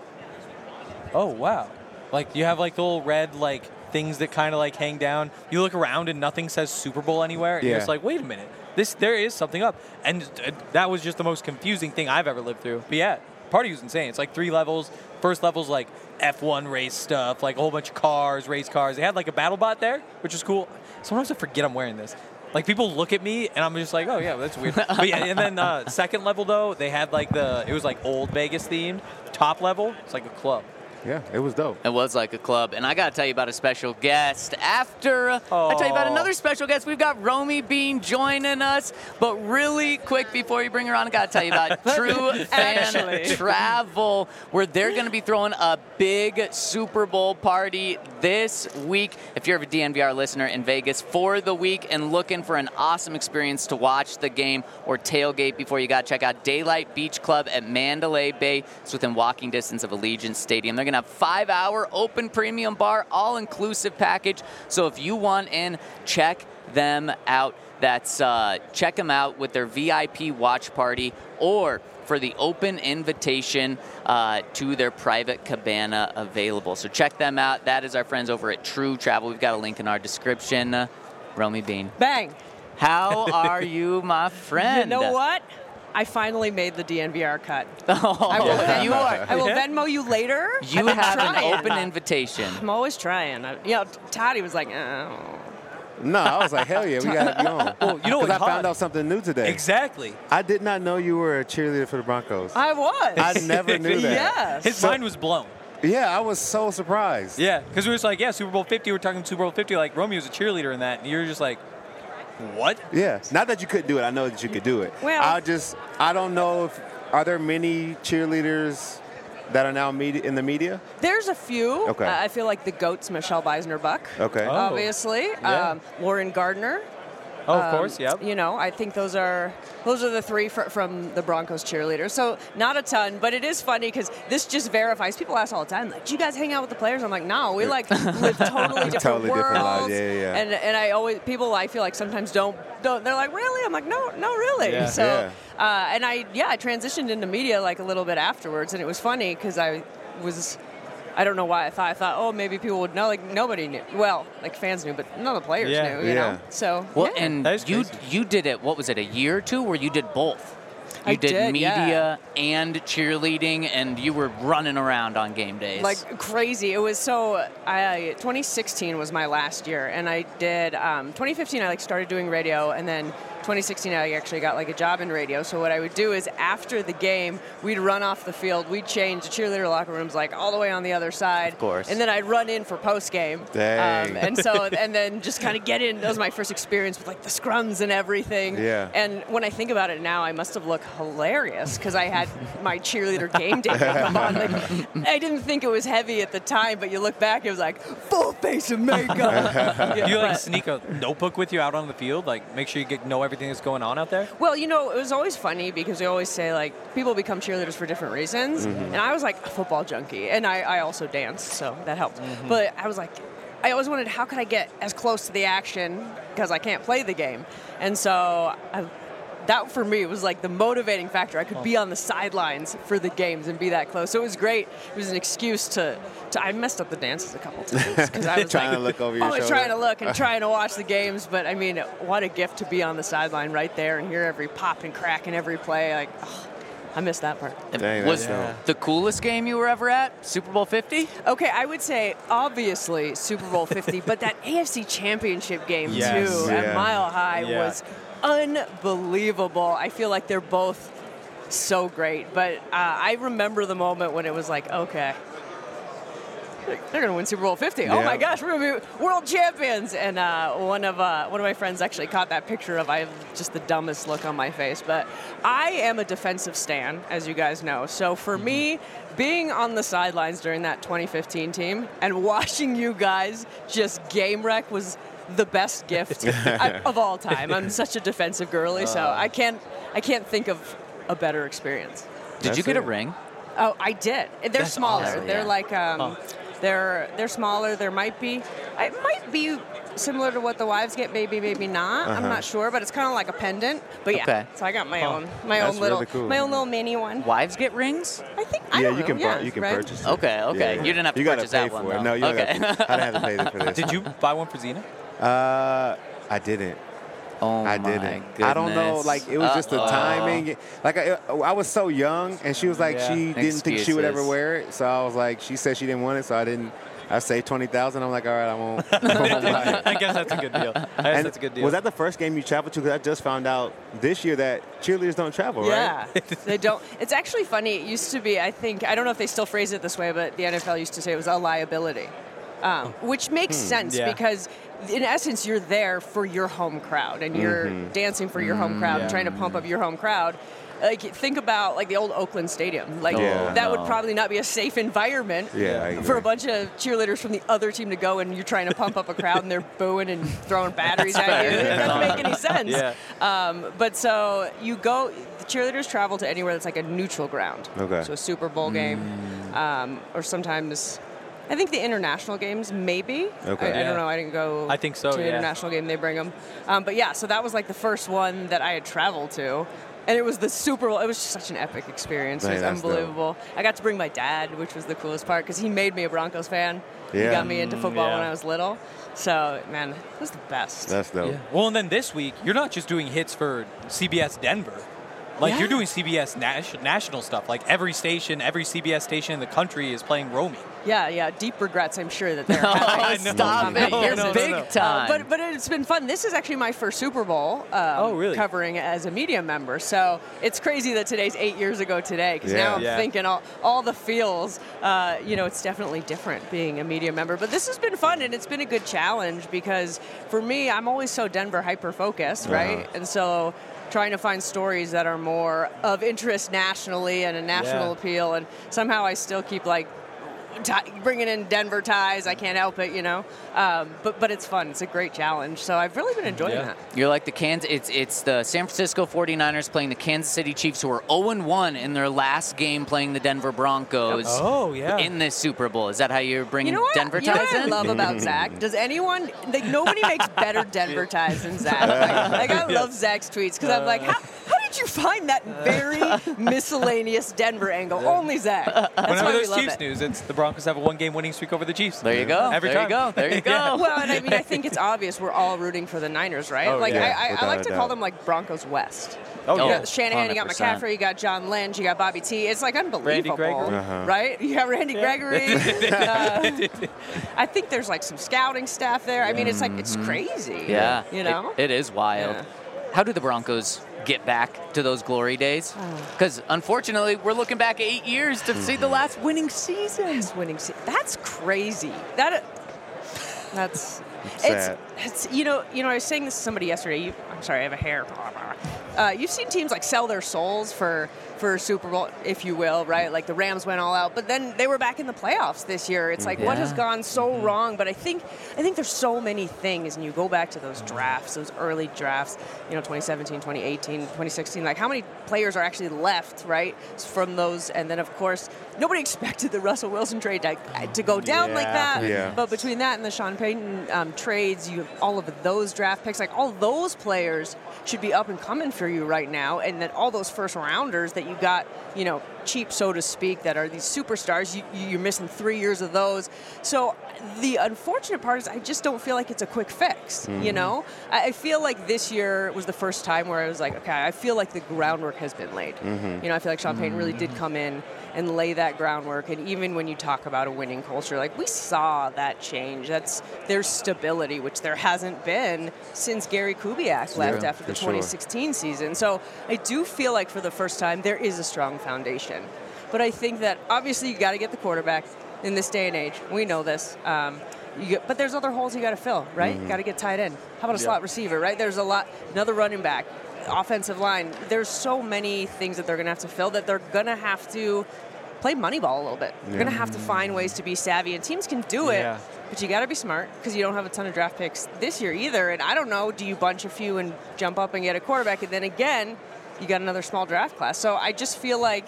oh wow, like you have like the little red like things that kind of like hang down. You look around and nothing says Super Bowl anywhere, and Yeah. you're just like, wait a minute, this there is something up, and uh, that was just the most confusing thing I've ever lived through. But yeah, party was insane. It's like three levels. First level's like F one race stuff, like a whole bunch of cars, race cars. They had like a battle bot there, which is cool. Sometimes I forget I'm wearing this. Like, people look at me, and I'm just like, oh, yeah, that's weird. But yeah, and then uh, second level, though, they had, like, the, it was, like, old Vegas themed. Top level, it's like a club. Yeah, it was dope. It was like a club. And I got to tell you about a special guest. After uh, I tell you about Aw. another special guest, we've got Romy Bean joining us. But really quick, before you bring her on, I got to tell you about True Fan Actually. Travel, where they're going to be throwing a big Super Bowl party this week. If you're a D N V R listener in Vegas for the week and looking for an awesome experience to watch the game or tailgate before, you got to check out Daylight Beach Club at Mandalay Bay. It's within walking distance of Allegiant Stadium. They're going to have five-hour open premium bar, all-inclusive package. So if you want in, check them out. That's uh, check them out with their V I P watch party, or for the open invitation uh, to their private cabana available. So check them out. That is our friends over at True Travel. We've got a link in our description. Uh, Romy Bean, Bang. how are you, my friend? You know what? I finally made the D N V R cut. Oh, I will, yeah. you are. I will Venmo you later. You I've been have an trying. open invitation. I'm always trying. I, you know, Toddy was like, oh. No, I was like, hell yeah, we got to be on. Well, you know Because what, I found Todd- out something new today. Exactly. I did not know you were a cheerleader for the Broncos. I was. I never knew that. Yes. His So- mind was blown. Yeah, I was so surprised. Yeah, because we were just like, yeah, Super Bowl fifty. We're talking Super Bowl fifty. Like, Romeo was a cheerleader in that. And you're just like, what? Yeah. Not that you couldn't do it. I know that you could do it. Well- I just, I don't know if, are there many cheerleaders that are now media, in the media? There's a few. Okay. Uh, I feel like the GOAT's Michelle Beisner-Buck. Okay. Oh. Obviously. Yeah. Um, Lauren Gardner. Oh, of Um, course, yep. You know, I think those are those are the three fr- from the Broncos cheerleaders. So not a ton, but it is funny because this just verifies. People ask all the time, like, "Do you guys hang out with the players?" I'm like, "No, we like live totally different Totally worlds." different lives, yeah, yeah, yeah. And and I always people I feel like sometimes don't don't they're like, "Really?" I'm like, "No, no, really." Yeah. So Yeah. Uh, and I yeah I transitioned into media like a little bit afterwards, and it was funny because I was. I don't know why I thought I thought oh maybe people would know, like nobody knew, well, like fans knew, but none of the players Yeah. knew, you Yeah. know. So Well, yeah. and That is you crazy. you did it. What was it? A year or two, where you did both. You I did, did, media and cheerleading, and you were running around on game days. like crazy. It was so. I twenty sixteen was my last year, and I did um, twenty fifteen. I like started doing radio, and then twenty sixteen I actually got like a job in radio. So what I would do is after the game, we'd run off the field, we'd change the cheerleader locker rooms like all the way on the other side, Of course. and then I'd run in for post game. Dang. Um, and so and then just kind of get in. That was my first experience with like the scrums and everything. Yeah. And when I think about it now, I must have looked hilarious because I had my cheerleader game day makeup on. Like, I didn't think it was heavy at the time, but you look back, it was like full face of makeup. Yeah, Do you like but- sneak a notebook with you out on the field? Like make sure you get know everything that's going on out there? Well, you know, it was always funny because we always say, like, people become cheerleaders for different reasons. And I was, like, a football junkie. And I, I also danced, so that helped. But I was like, I always wondered, how could I get as close to the action because I can't play the game? And so I, that, for me, was, like, the motivating factor. I could be on the sidelines for the games and be that close. So it was great. It was an excuse to, to I messed up the dances a couple times because I was Trying like, to look over your always shoulder. trying to look and trying to watch the games. But, I mean, what a gift to be on the sideline right there and hear every pop and crack in every play. Like, oh, I missed that part. Dang, Was that's dope. the coolest game you were ever at Super Bowl fifty? Okay, I would say obviously Super Bowl fifty, but that A F C Championship game Yes. too at Yeah. Mile High Yeah. was unbelievable. I feel like they're both so great, but uh, I remember the moment when it was like, okay, they're going to win Super Bowl fifty. Oh Yeah. my gosh, we're going to be world champions! And uh, one of uh, one of my friends actually caught that picture of I have just the dumbest look on my face. But I am a defensive stan, as you guys know. So for me, being on the sidelines during that twenty fifteen team and watching you guys just game wreck was the best gift I, of all time. I'm such a defensive girly, so I can't I can't think of a better experience. Did you That's get a it. ring? Oh, I did. They're That's smaller. awesome. They're Yeah. like um, they're they're smaller. There might be, it might be similar to what the wives get. Maybe, maybe not. I'm not sure, but it's kind of like a pendant. But yeah, Okay. so I got my own my That's own little really cool. my own little mini one. Wives get rings? I think. I Yeah, don't you know, can yeah, bu- you can right? purchase it. Okay, okay. Yeah. You didn't have to you gotta purchase pay that one, for it. though. No, you Okay. gotta, I didn't have to pay for this. Did you buy one for Xena? Uh, I didn't. Oh I my didn't. goodness. I don't know. Like it was just the Uh-oh. timing. Like I, I was so young, and she was like Yeah. she didn't think she would ever Excuses. wear it. So I was like, she said she didn't want it, so I didn't. I saved twenty thousand. I'm like, all right, I won't. I won't buy it. I guess that's a good deal. I guess And that's a good deal. was that the first game you traveled to? Because I just found out this year that cheerleaders don't travel, Yeah, right? they don't. It's actually funny. It used to be, I think, I don't know if they still phrase it this way, but the N F L used to say it was a liability, um, which makes sense Yeah. because, in essence, you're there for your home crowd and you're dancing for your home crowd and yeah. trying to pump up your home crowd. Like, think about like the old Oakland Stadium. Like Yeah. that would no. probably not be a safe environment Yeah, I for agree. a bunch of cheerleaders from the other team to go, and you're trying to pump up a crowd and they're booing and throwing batteries at you. It doesn't make any sense. Yeah. Um, but so you go, the cheerleaders travel to anywhere that's like a neutral ground. Okay. So a Super Bowl game, um, or sometimes, I think the international games, maybe. Okay. I, I Yeah. don't know. I didn't go I think so, to the yeah. international game. They bring them. Um, but yeah, so that was like the first one that I had traveled to. And it was the Super Bowl. It was just such an epic experience. It Man, was that's dope. unbelievable. I got to bring my dad, which was the coolest part, because he made me a Broncos fan. He Yeah. got me into football yeah. when I was little. So, man, it was the best. That's dope. Yeah. Well, and then this week, you're not just doing hits for C B S Denver. Like, Yeah. you're doing C B S nas- national stuff. Like, every station, every C B S station in the country is playing Romy. Yeah, yeah. Deep regrets, I'm sure that they're Oh, having. stop Um, it. no, You're no, no, big no. time. Uh, but but it's been fun. This is actually my first Super Bowl um, Oh, really? covering as a media member. So it's crazy that today's eight years ago today, because Yeah. now I'm Yeah. thinking all, all the feels. Uh, you know, it's definitely different being a media member. But this has been fun, and it's been a good challenge because for me, I'm always so Denver hyper-focused, right? Uh-huh. And so trying to find stories that are more of interest nationally and a national Yeah. appeal, and somehow I still keep like Tie, bringing in Denver ties. I can't help it, you know. Um, but but it's fun. It's a great challenge. So I've really been enjoying Yeah. that. You're like the Kansas. It's it's the San Francisco forty-niners playing the Kansas City Chiefs, who are oh and one in their last game playing the Denver Broncos. Oh, yeah. In this Super Bowl, is that how you're bringing You know what? Denver you know ties what I in? love about Zach? Does anyone like nobody makes better Denver ties than Zach? Like, like I love Zach's tweets because I'm like, how, how did you find that very miscellaneous Denver angle? Only Zach. That's Whenever why we there's love Chiefs it. news, it's the Broncos have a one-game winning streak over the Chiefs. There you go. Every there time. you go. There you go. Yeah. Well, and I mean, I think it's obvious we're all rooting for the Niners, right? Oh, like yeah, I, I, I without like a to doubt. call them like Broncos West. Oh, You yeah. know, Shanahan, you got one hundred percent. McCaffrey, you got John Lynch, you got Bobby T. It's like unbelievable, Gregory. Uh-huh. right? You got Randy Gregory. uh, I think there's like some scouting staff there. I mean, it's like it's crazy. Yeah. you know. It, it is wild. Yeah. How do the Broncos get back to those glory days? Because unfortunately, we're looking back eight years to see the last winning season. Last winning se- That's crazy. That. That's. It's It's, sad. it's you know you know I was saying this to somebody yesterday. You, I'm sorry, I have a hair. Uh, you've seen teams like sell their souls for for Super Bowl, if you will, right? Like the Rams went all out, but then they were back in the playoffs this year. It's like, Yeah. what has gone so wrong? But I think I think there's so many things, and you go back to those drafts, those early drafts, you know, twenty seventeen, twenty eighteen, twenty sixteen. Like, how many players are actually left, right, from those? And then, of course, nobody expected the Russell Wilson trade to, to go down like Yeah, that. yeah. But between that and the Sean Payton um, trades, you have all of those draft picks, like all those players should be up and coming for you right now. And then all those first rounders that you got, you know, cheap, so to speak, that are these superstars, you, you're missing three years of those. So the unfortunate part is I just don't feel like it's a quick fix, Mm-hmm. you know? I, I feel like this year was the first time where I was like, okay, I feel like the groundwork has been laid. Mm-hmm. You know, I feel like Sean Payton really did come in and lay that groundwork. And even when you talk about a winning culture, like we saw that change. That's there's stability, which there hasn't been since Gary Kubiak left Yeah, after the for sure. twenty sixteen season. So I do feel like for the first time there is a strong foundation. But I think that obviously you got to get the quarterback in this day and age. We know this. Um, you get, but there's other holes you got to fill, right? Mm-hmm. Got to get tight end. How about a slot receiver, right? There's a lot. Another running back. Offensive line. There's so many things that they're going to have to fill that they're going to have to play Moneyball a little bit. They're Yeah. going to have to find ways to be savvy, and teams can do it, Yeah. but you got to be smart because you don't have a ton of draft picks this year either. And I don't know, do you bunch a few and jump up and get a quarterback, and then again, you got another small draft class. So I just feel like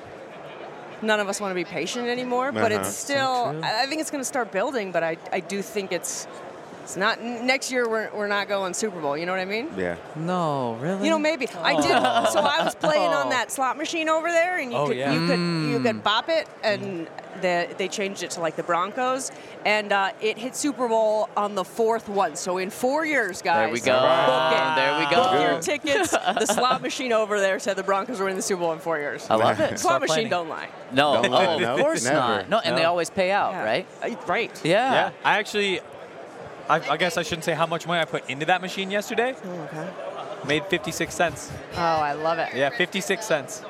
none of us want to be patient anymore, but Uh-huh. it's still, I I think it's going to start building, but I, I do think it's, it's not, next year we're, we're not going Super Bowl, you know what I mean? Yeah. No, really? You know, maybe I did. So I was playing on that slot machine over there, and you Oh, could yeah. you could Mm. you could bop it, and the, they changed it to like the Broncos, and uh, it hit Super Bowl on the fourth one. So in four years, guys, There we go. book it. There we go. Book your Good. tickets. The slot machine over there said the Broncos were in the Super Bowl in four years. I love it. Slot Start machine planning. don't lie. No, Don't oh, lie. of No, course never. not. No, and they No. always pay out, Yeah. right? Uh, right. Yeah. Yeah, I actually, I, I guess I shouldn't say how much money I put into that machine yesterday. Oh, okay. Made fifty-six cents. Oh, I love it. Yeah, fifty-six cents.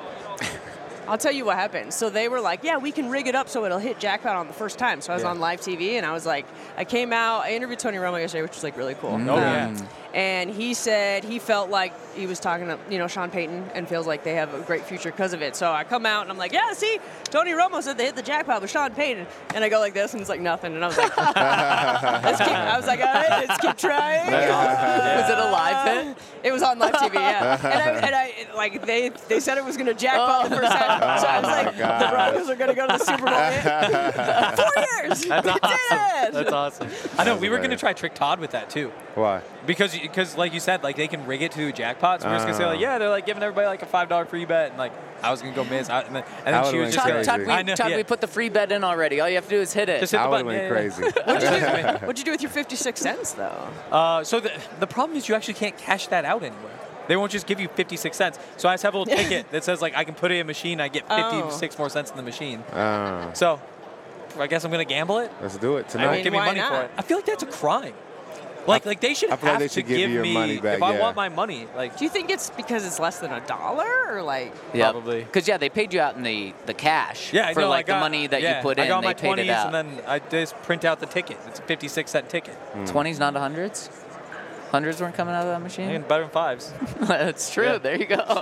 I'll tell you what happened. So they were like, yeah, we can rig it up so it'll hit jackpot on the first time. So I was Yeah. on live T V, and I was like, I came out, I interviewed Tony Romo yesterday, which was like really cool. Oh, yeah. And he said he felt like he was talking to, you know, Sean Payton and feels like they have a great future because of it. So I come out and I'm like, yeah, see, Tony Romo said they hit the jackpot with Sean Payton. And I go like this, and it's like nothing. And I was like, let's keep, I was like, all right, let's keep trying. Was it a live hit? It was on live T V, yeah. And I, and I like they they said it was going to jackpot the first time. So I was like, God. the Broncos are going to go to the Super Bowl. Four years. That's We awesome. did it. That's awesome. I know, That's we were going to hilarious. try Trick Todd with that too. Why? Because, because like you said, like they can rig it to jackpots. We were just gonna say like, Oh. yeah, they're like giving everybody like a five dollar free bet, and like I was gonna go miss, I, and then, and That then she would've was been just Todd, gonna, crazy. Todd, we, I know, Todd, yeah. we put the free bet in already. All you have to do is hit it. Just hit I the would have button. been yeah, yeah, crazy. What'd you, do, what'd you do with your fifty-six cents, though? yeah. Uh, so the the problem is you actually can't cash that out anywhere. They won't just give you fifty-six cents. So I just have a little ticket that says like I can put it in a machine. I get fifty-six more cents in the machine. Uh, So I guess I'm gonna gamble it. let's do it They tonight. won't give me why money for not? it. I feel like that's a crime. Like like they should I feel like have they to should give you your me money back, if I yeah. want my money. Like Do you think it's because it's less than a dollar, or like? Probably. Because, yeah, they paid you out in the, the cash yeah, I for, know, like, I got, the money that yeah, you put I in. got They my paid it twenties, out. and then I just print out the ticket. It's a fifty-six cent ticket. twenties, not hundreds? Hundreds weren't coming out of that I machine? mean, better than fives. That's true. Yeah. There you go.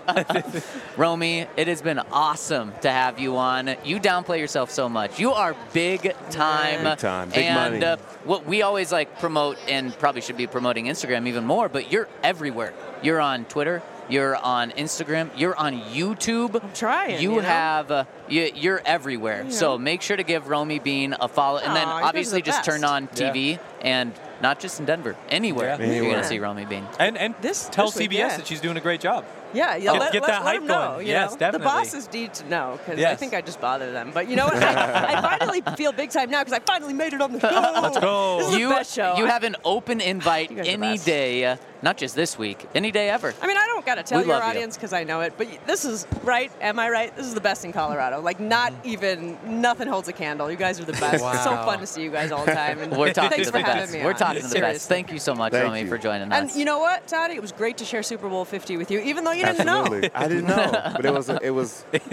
Romy, it has been awesome to have you on. You downplay yourself so much. You are big time. Big time. Big and money. Uh, what we always like promote, and probably should be promoting Instagram even more, but you're everywhere. You're on Twitter. You're on Instagram. You're on YouTube. I'm trying, You, you know? have. Uh, you, you're everywhere. You So know. make sure to give Romy Bean a follow, and then Aw, you guys are obviously the just best. turn on T V Yeah. and not just in Denver, anywhere. Yeah. You're Anywhere. gonna see Romy Bean. And and This- tell this week, C B S yeah. that she's doing a great job. Yeah, yeah. Get- let, get let, that let hype them know, going. you Yes, know? definitely. The bosses need to know because I Yes. think I just bother them. But you know what? I, I finally feel big time now because I finally made it on the show. Let's go. This is You the best show. you have an open invite You guys are the any best. day, uh, not just this week, any day ever. I mean, I don't got to tell We your love you. audience because I know it, but this is right. Am I right? This is the best in Colorado. Like, not even nothing holds a candle. You guys are the best. Wow. It's so fun to see you guys all the time. And We're talking thanks to the for having best. me We're on. talking to the best. Seriously. Thank you so much, Thank Romy, you. for joining And us. you know what, Toddy? It was great to share Super Bowl fifty with you, even though you didn't Absolutely. know. I didn't know, but it was it was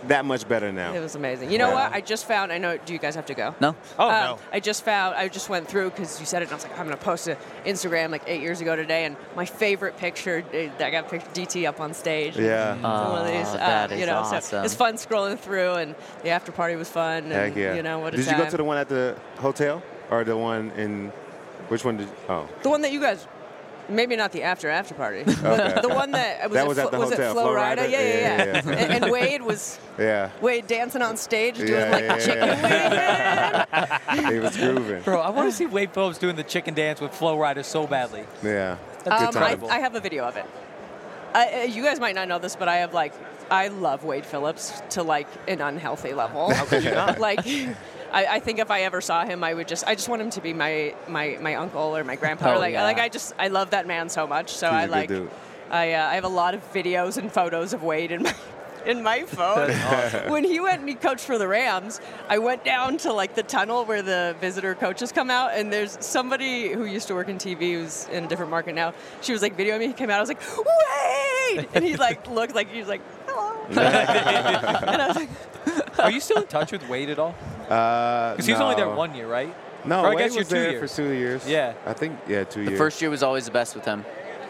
that much better now. It was amazing. You know Yeah. what? I just found. I know. Do you guys have to go? No. Oh, Um, no. I just found. I just went through because you said it, and I was like, I'm gonna post to Instagram like eight years ago today, and my favorite picture. eh, I got a picture D T up on stage. Yeah. It's one of these, Oh, uh, that you is know, so awesome. it's fun scrolling through, and the after party was fun. And, Heck yeah. You know what? A Did you time. go to the one at the hotel or the one in? Which one did? Oh. The one that you guys. Maybe not the after after party. Okay. The one that was, That it, was at the was hotel, it Flo Flo Rida? Rida? Yeah, yeah, yeah. Yeah, yeah, yeah. and, and Wade was Yeah. Wade dancing on stage doing Yeah, like yeah, the chicken yeah. wing. He was grooving. Bro, I want to see Wade Phillips doing the chicken dance with Flo Rida so badly. Yeah. That's Um, I, incredible. I have a video of it. I, uh, you guys might not know this, but I have like I love Wade Phillips to like an unhealthy level. How could you not? Like, I, I think if I ever saw him, I would just I just want him to be my my, my uncle or my grandpa. Oh, like yeah. like I just I love that man so much. So He's I a good like dude. I uh, I have a lot of videos and photos of Wade in my. In my phone. When he went and he coached for the Rams, I went down to like the tunnel where the visitor coaches come out, and there's somebody who used to work in T V who's in a different market now. She was like videoing me. He came out. I was like, Wade! And he like looked like he was like, hello. And I was like, Are you still in touch with Wade at all? Uh, Because he was only there no. one year, right? No, Or I Wade guess you're was two there years. for two years. Yeah. I think yeah, two The years. first year was always the best with him.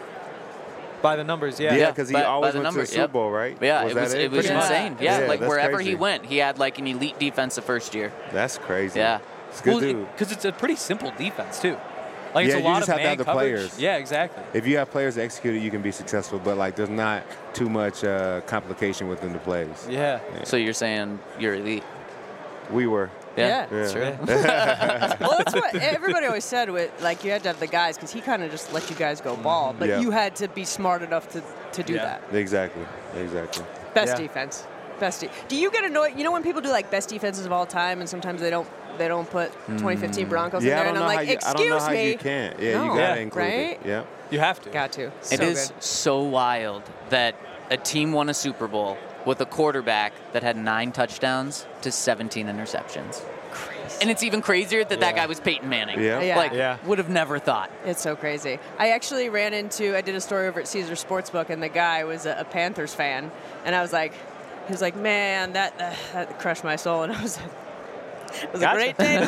By the numbers, yeah. Yeah, because he by- by always the went numbers, to the Super yep. Bowl, right? Yeah, Was it that was it was Pretty much. insane. Yeah, Yeah, like that's wherever crazy. he went, he had like an elite defense the first year. That's crazy. Yeah. It's a good dude. Because it's a pretty simple defense, too. Like, it's Yeah, a you lot just of have to man have the coverage. players. Yeah, exactly. If you have players that execute it, you can be successful. But like, there's not too much uh, complication within the plays. Yeah. So you're saying you're elite? We were. Yeah. Yeah. True. well, that's what everybody always said. With like, you had to have the guys because he kind of just let you guys go ball, but Yeah. you had to be smart enough to, to do Yeah. that. Exactly. Exactly. Best Yeah. defense. Best. De- do you get annoyed? You know when people do like best defenses of all time, and sometimes they don't they don't put twenty fifteen Broncos Yeah, I in there, don't and know I'm how like, you. I don't know excuse how me. you can't. Yeah, No. you gotta Yeah. include Right? it. Yeah. You have to. Got to. It So is good. so wild that a team won a Super Bowl with a quarterback that had nine touchdowns to seventeen interceptions. Crazy. And it's even crazier that that Yeah. guy was Peyton Manning. Yeah. Yeah. Like, Yeah. would have never thought. It's so crazy. I actually ran into, I did a story over at Caesar Sportsbook, and the guy was a, a Panthers fan, and I was like, he was like, man, that uh, that crushed my soul, and I was like, it was Gotcha. a great day.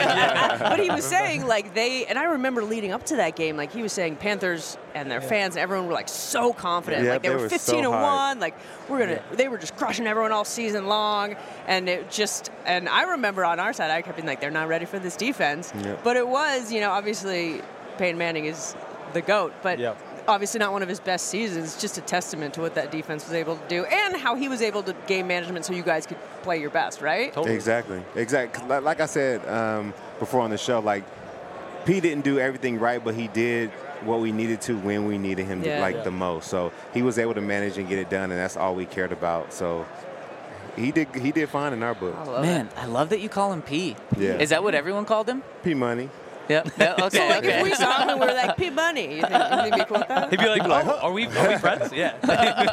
But he was saying, like, they, and I remember leading up to that game, like, he was saying Panthers and their fans and everyone were, like, so confident. Yeah, like, they, they were were so fifteen and hyped. one. Like, we're going to, they were just crushing everyone all season long. And it just, and I remember on our side, I kept being like, they're not ready for this defense. Yep. But it was, you know, obviously, Peyton Manning is the GOAT, but Yep. obviously not one of his best seasons. Just a testament to what that defense was able to do and how he was able to game management so you guys could play your best, right? Totally. Exactly. Exactly. 'Cause Like, like I said um, before on the show, like P didn't do everything right, but he did what we needed to when we needed him Yeah. to, like Yeah. the most. So he was able to manage and get it done, and that's all we cared about. So he did. He did fine in our book. I love Man, I love that you call him P. Yeah. Is that what everyone called him? P money. Yeah. yeah okay. it. So, like, okay. if we saw him and we were like, P Money, you think, you think he'd be cool with that? He'd be like, oh, are we, are we friends? Yeah. He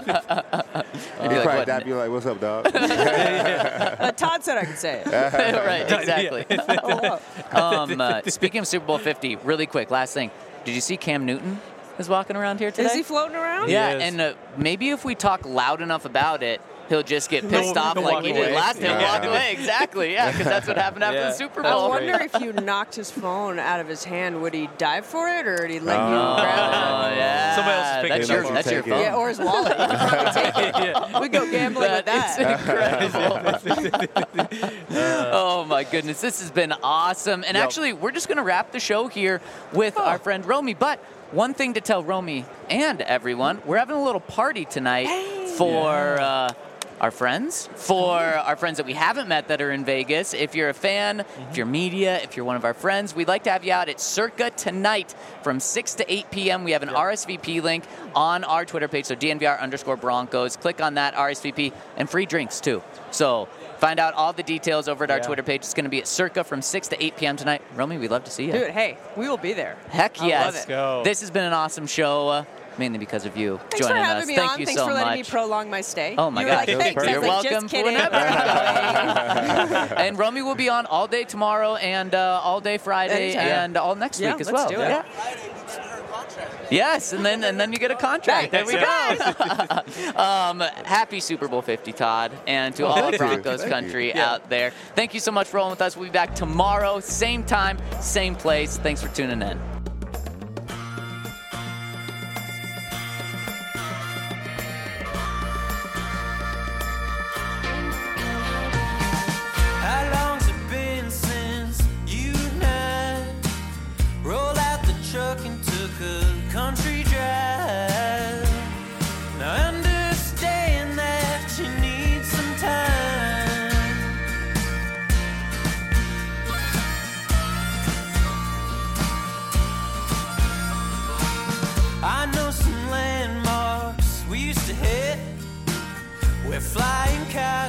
like, probably what? dap you like, "What's up, dog?" Uh, Todd said I could say it. right. Exactly. Oh, um, uh, speaking of Super Bowl fifty, really quick, last thing. Did you see Cam Newton is walking around here today? Is he floating around? Yeah, He is. and uh, maybe if we talk loud enough about it, he'll just get pissed He'll- off he'll like walk he away. did last time. He'll Yeah. walk away, exactly, yeah, because that's what happened after Yeah. the Super I Bowl. wonder if you knocked his phone out of his hand, would he dive for it or would he let Oh. you Oh, grab it? yeah. Somebody else is picking that's it your, up. that's your Take it. phone. Yeah, or his wallet. You could probably take it. yeah. We go gambling with That that. is incredible. Oh my goodness, this has been awesome. And Yep. actually, we're just going to wrap the show here with our friend Romy. But one thing to tell Romy and everyone, we're having a little party tonight for uh, our friends, for our friends that we haven't met that are in Vegas. If you're a fan, if you're media, if you're one of our friends, we'd like to have you out at Circa tonight from six to eight p.m. We have an R S V P link on our Twitter page, so D N V R underscore Broncos. Click on that R S V P and free drinks too. So find out all the details over at our Yeah. Twitter page. It's going to be at Circa from six to eight p.m. tonight. Romy, we'd love to see you. Dude, hey, we will be there. Heck I yes. love Let's go. This has been an awesome show, uh, mainly because of you Thanks joining for having us. me Thank on. you Thanks so for letting me much. prolong my stay. Oh my you God. were like, It was thanks. I perfect. was You're like, welcome just kidding. whenever. And Romy will be on all day tomorrow and uh, all day Friday Anytime. and all next Yeah, week as let's well. do it. Yeah. Yes, and then and then you get a contract. There we go. um, happy Super Bowl fifty, Todd, and to all Thank of you. Broncos Thank country you. out there. Thank you so much for rolling with us. We'll be back tomorrow, same time, same place. Thanks for tuning in. How long's it been since you and I rolled out the truck and took a country drive? Now I understand that you need some time. I know some landmarks we used to hit where flying cars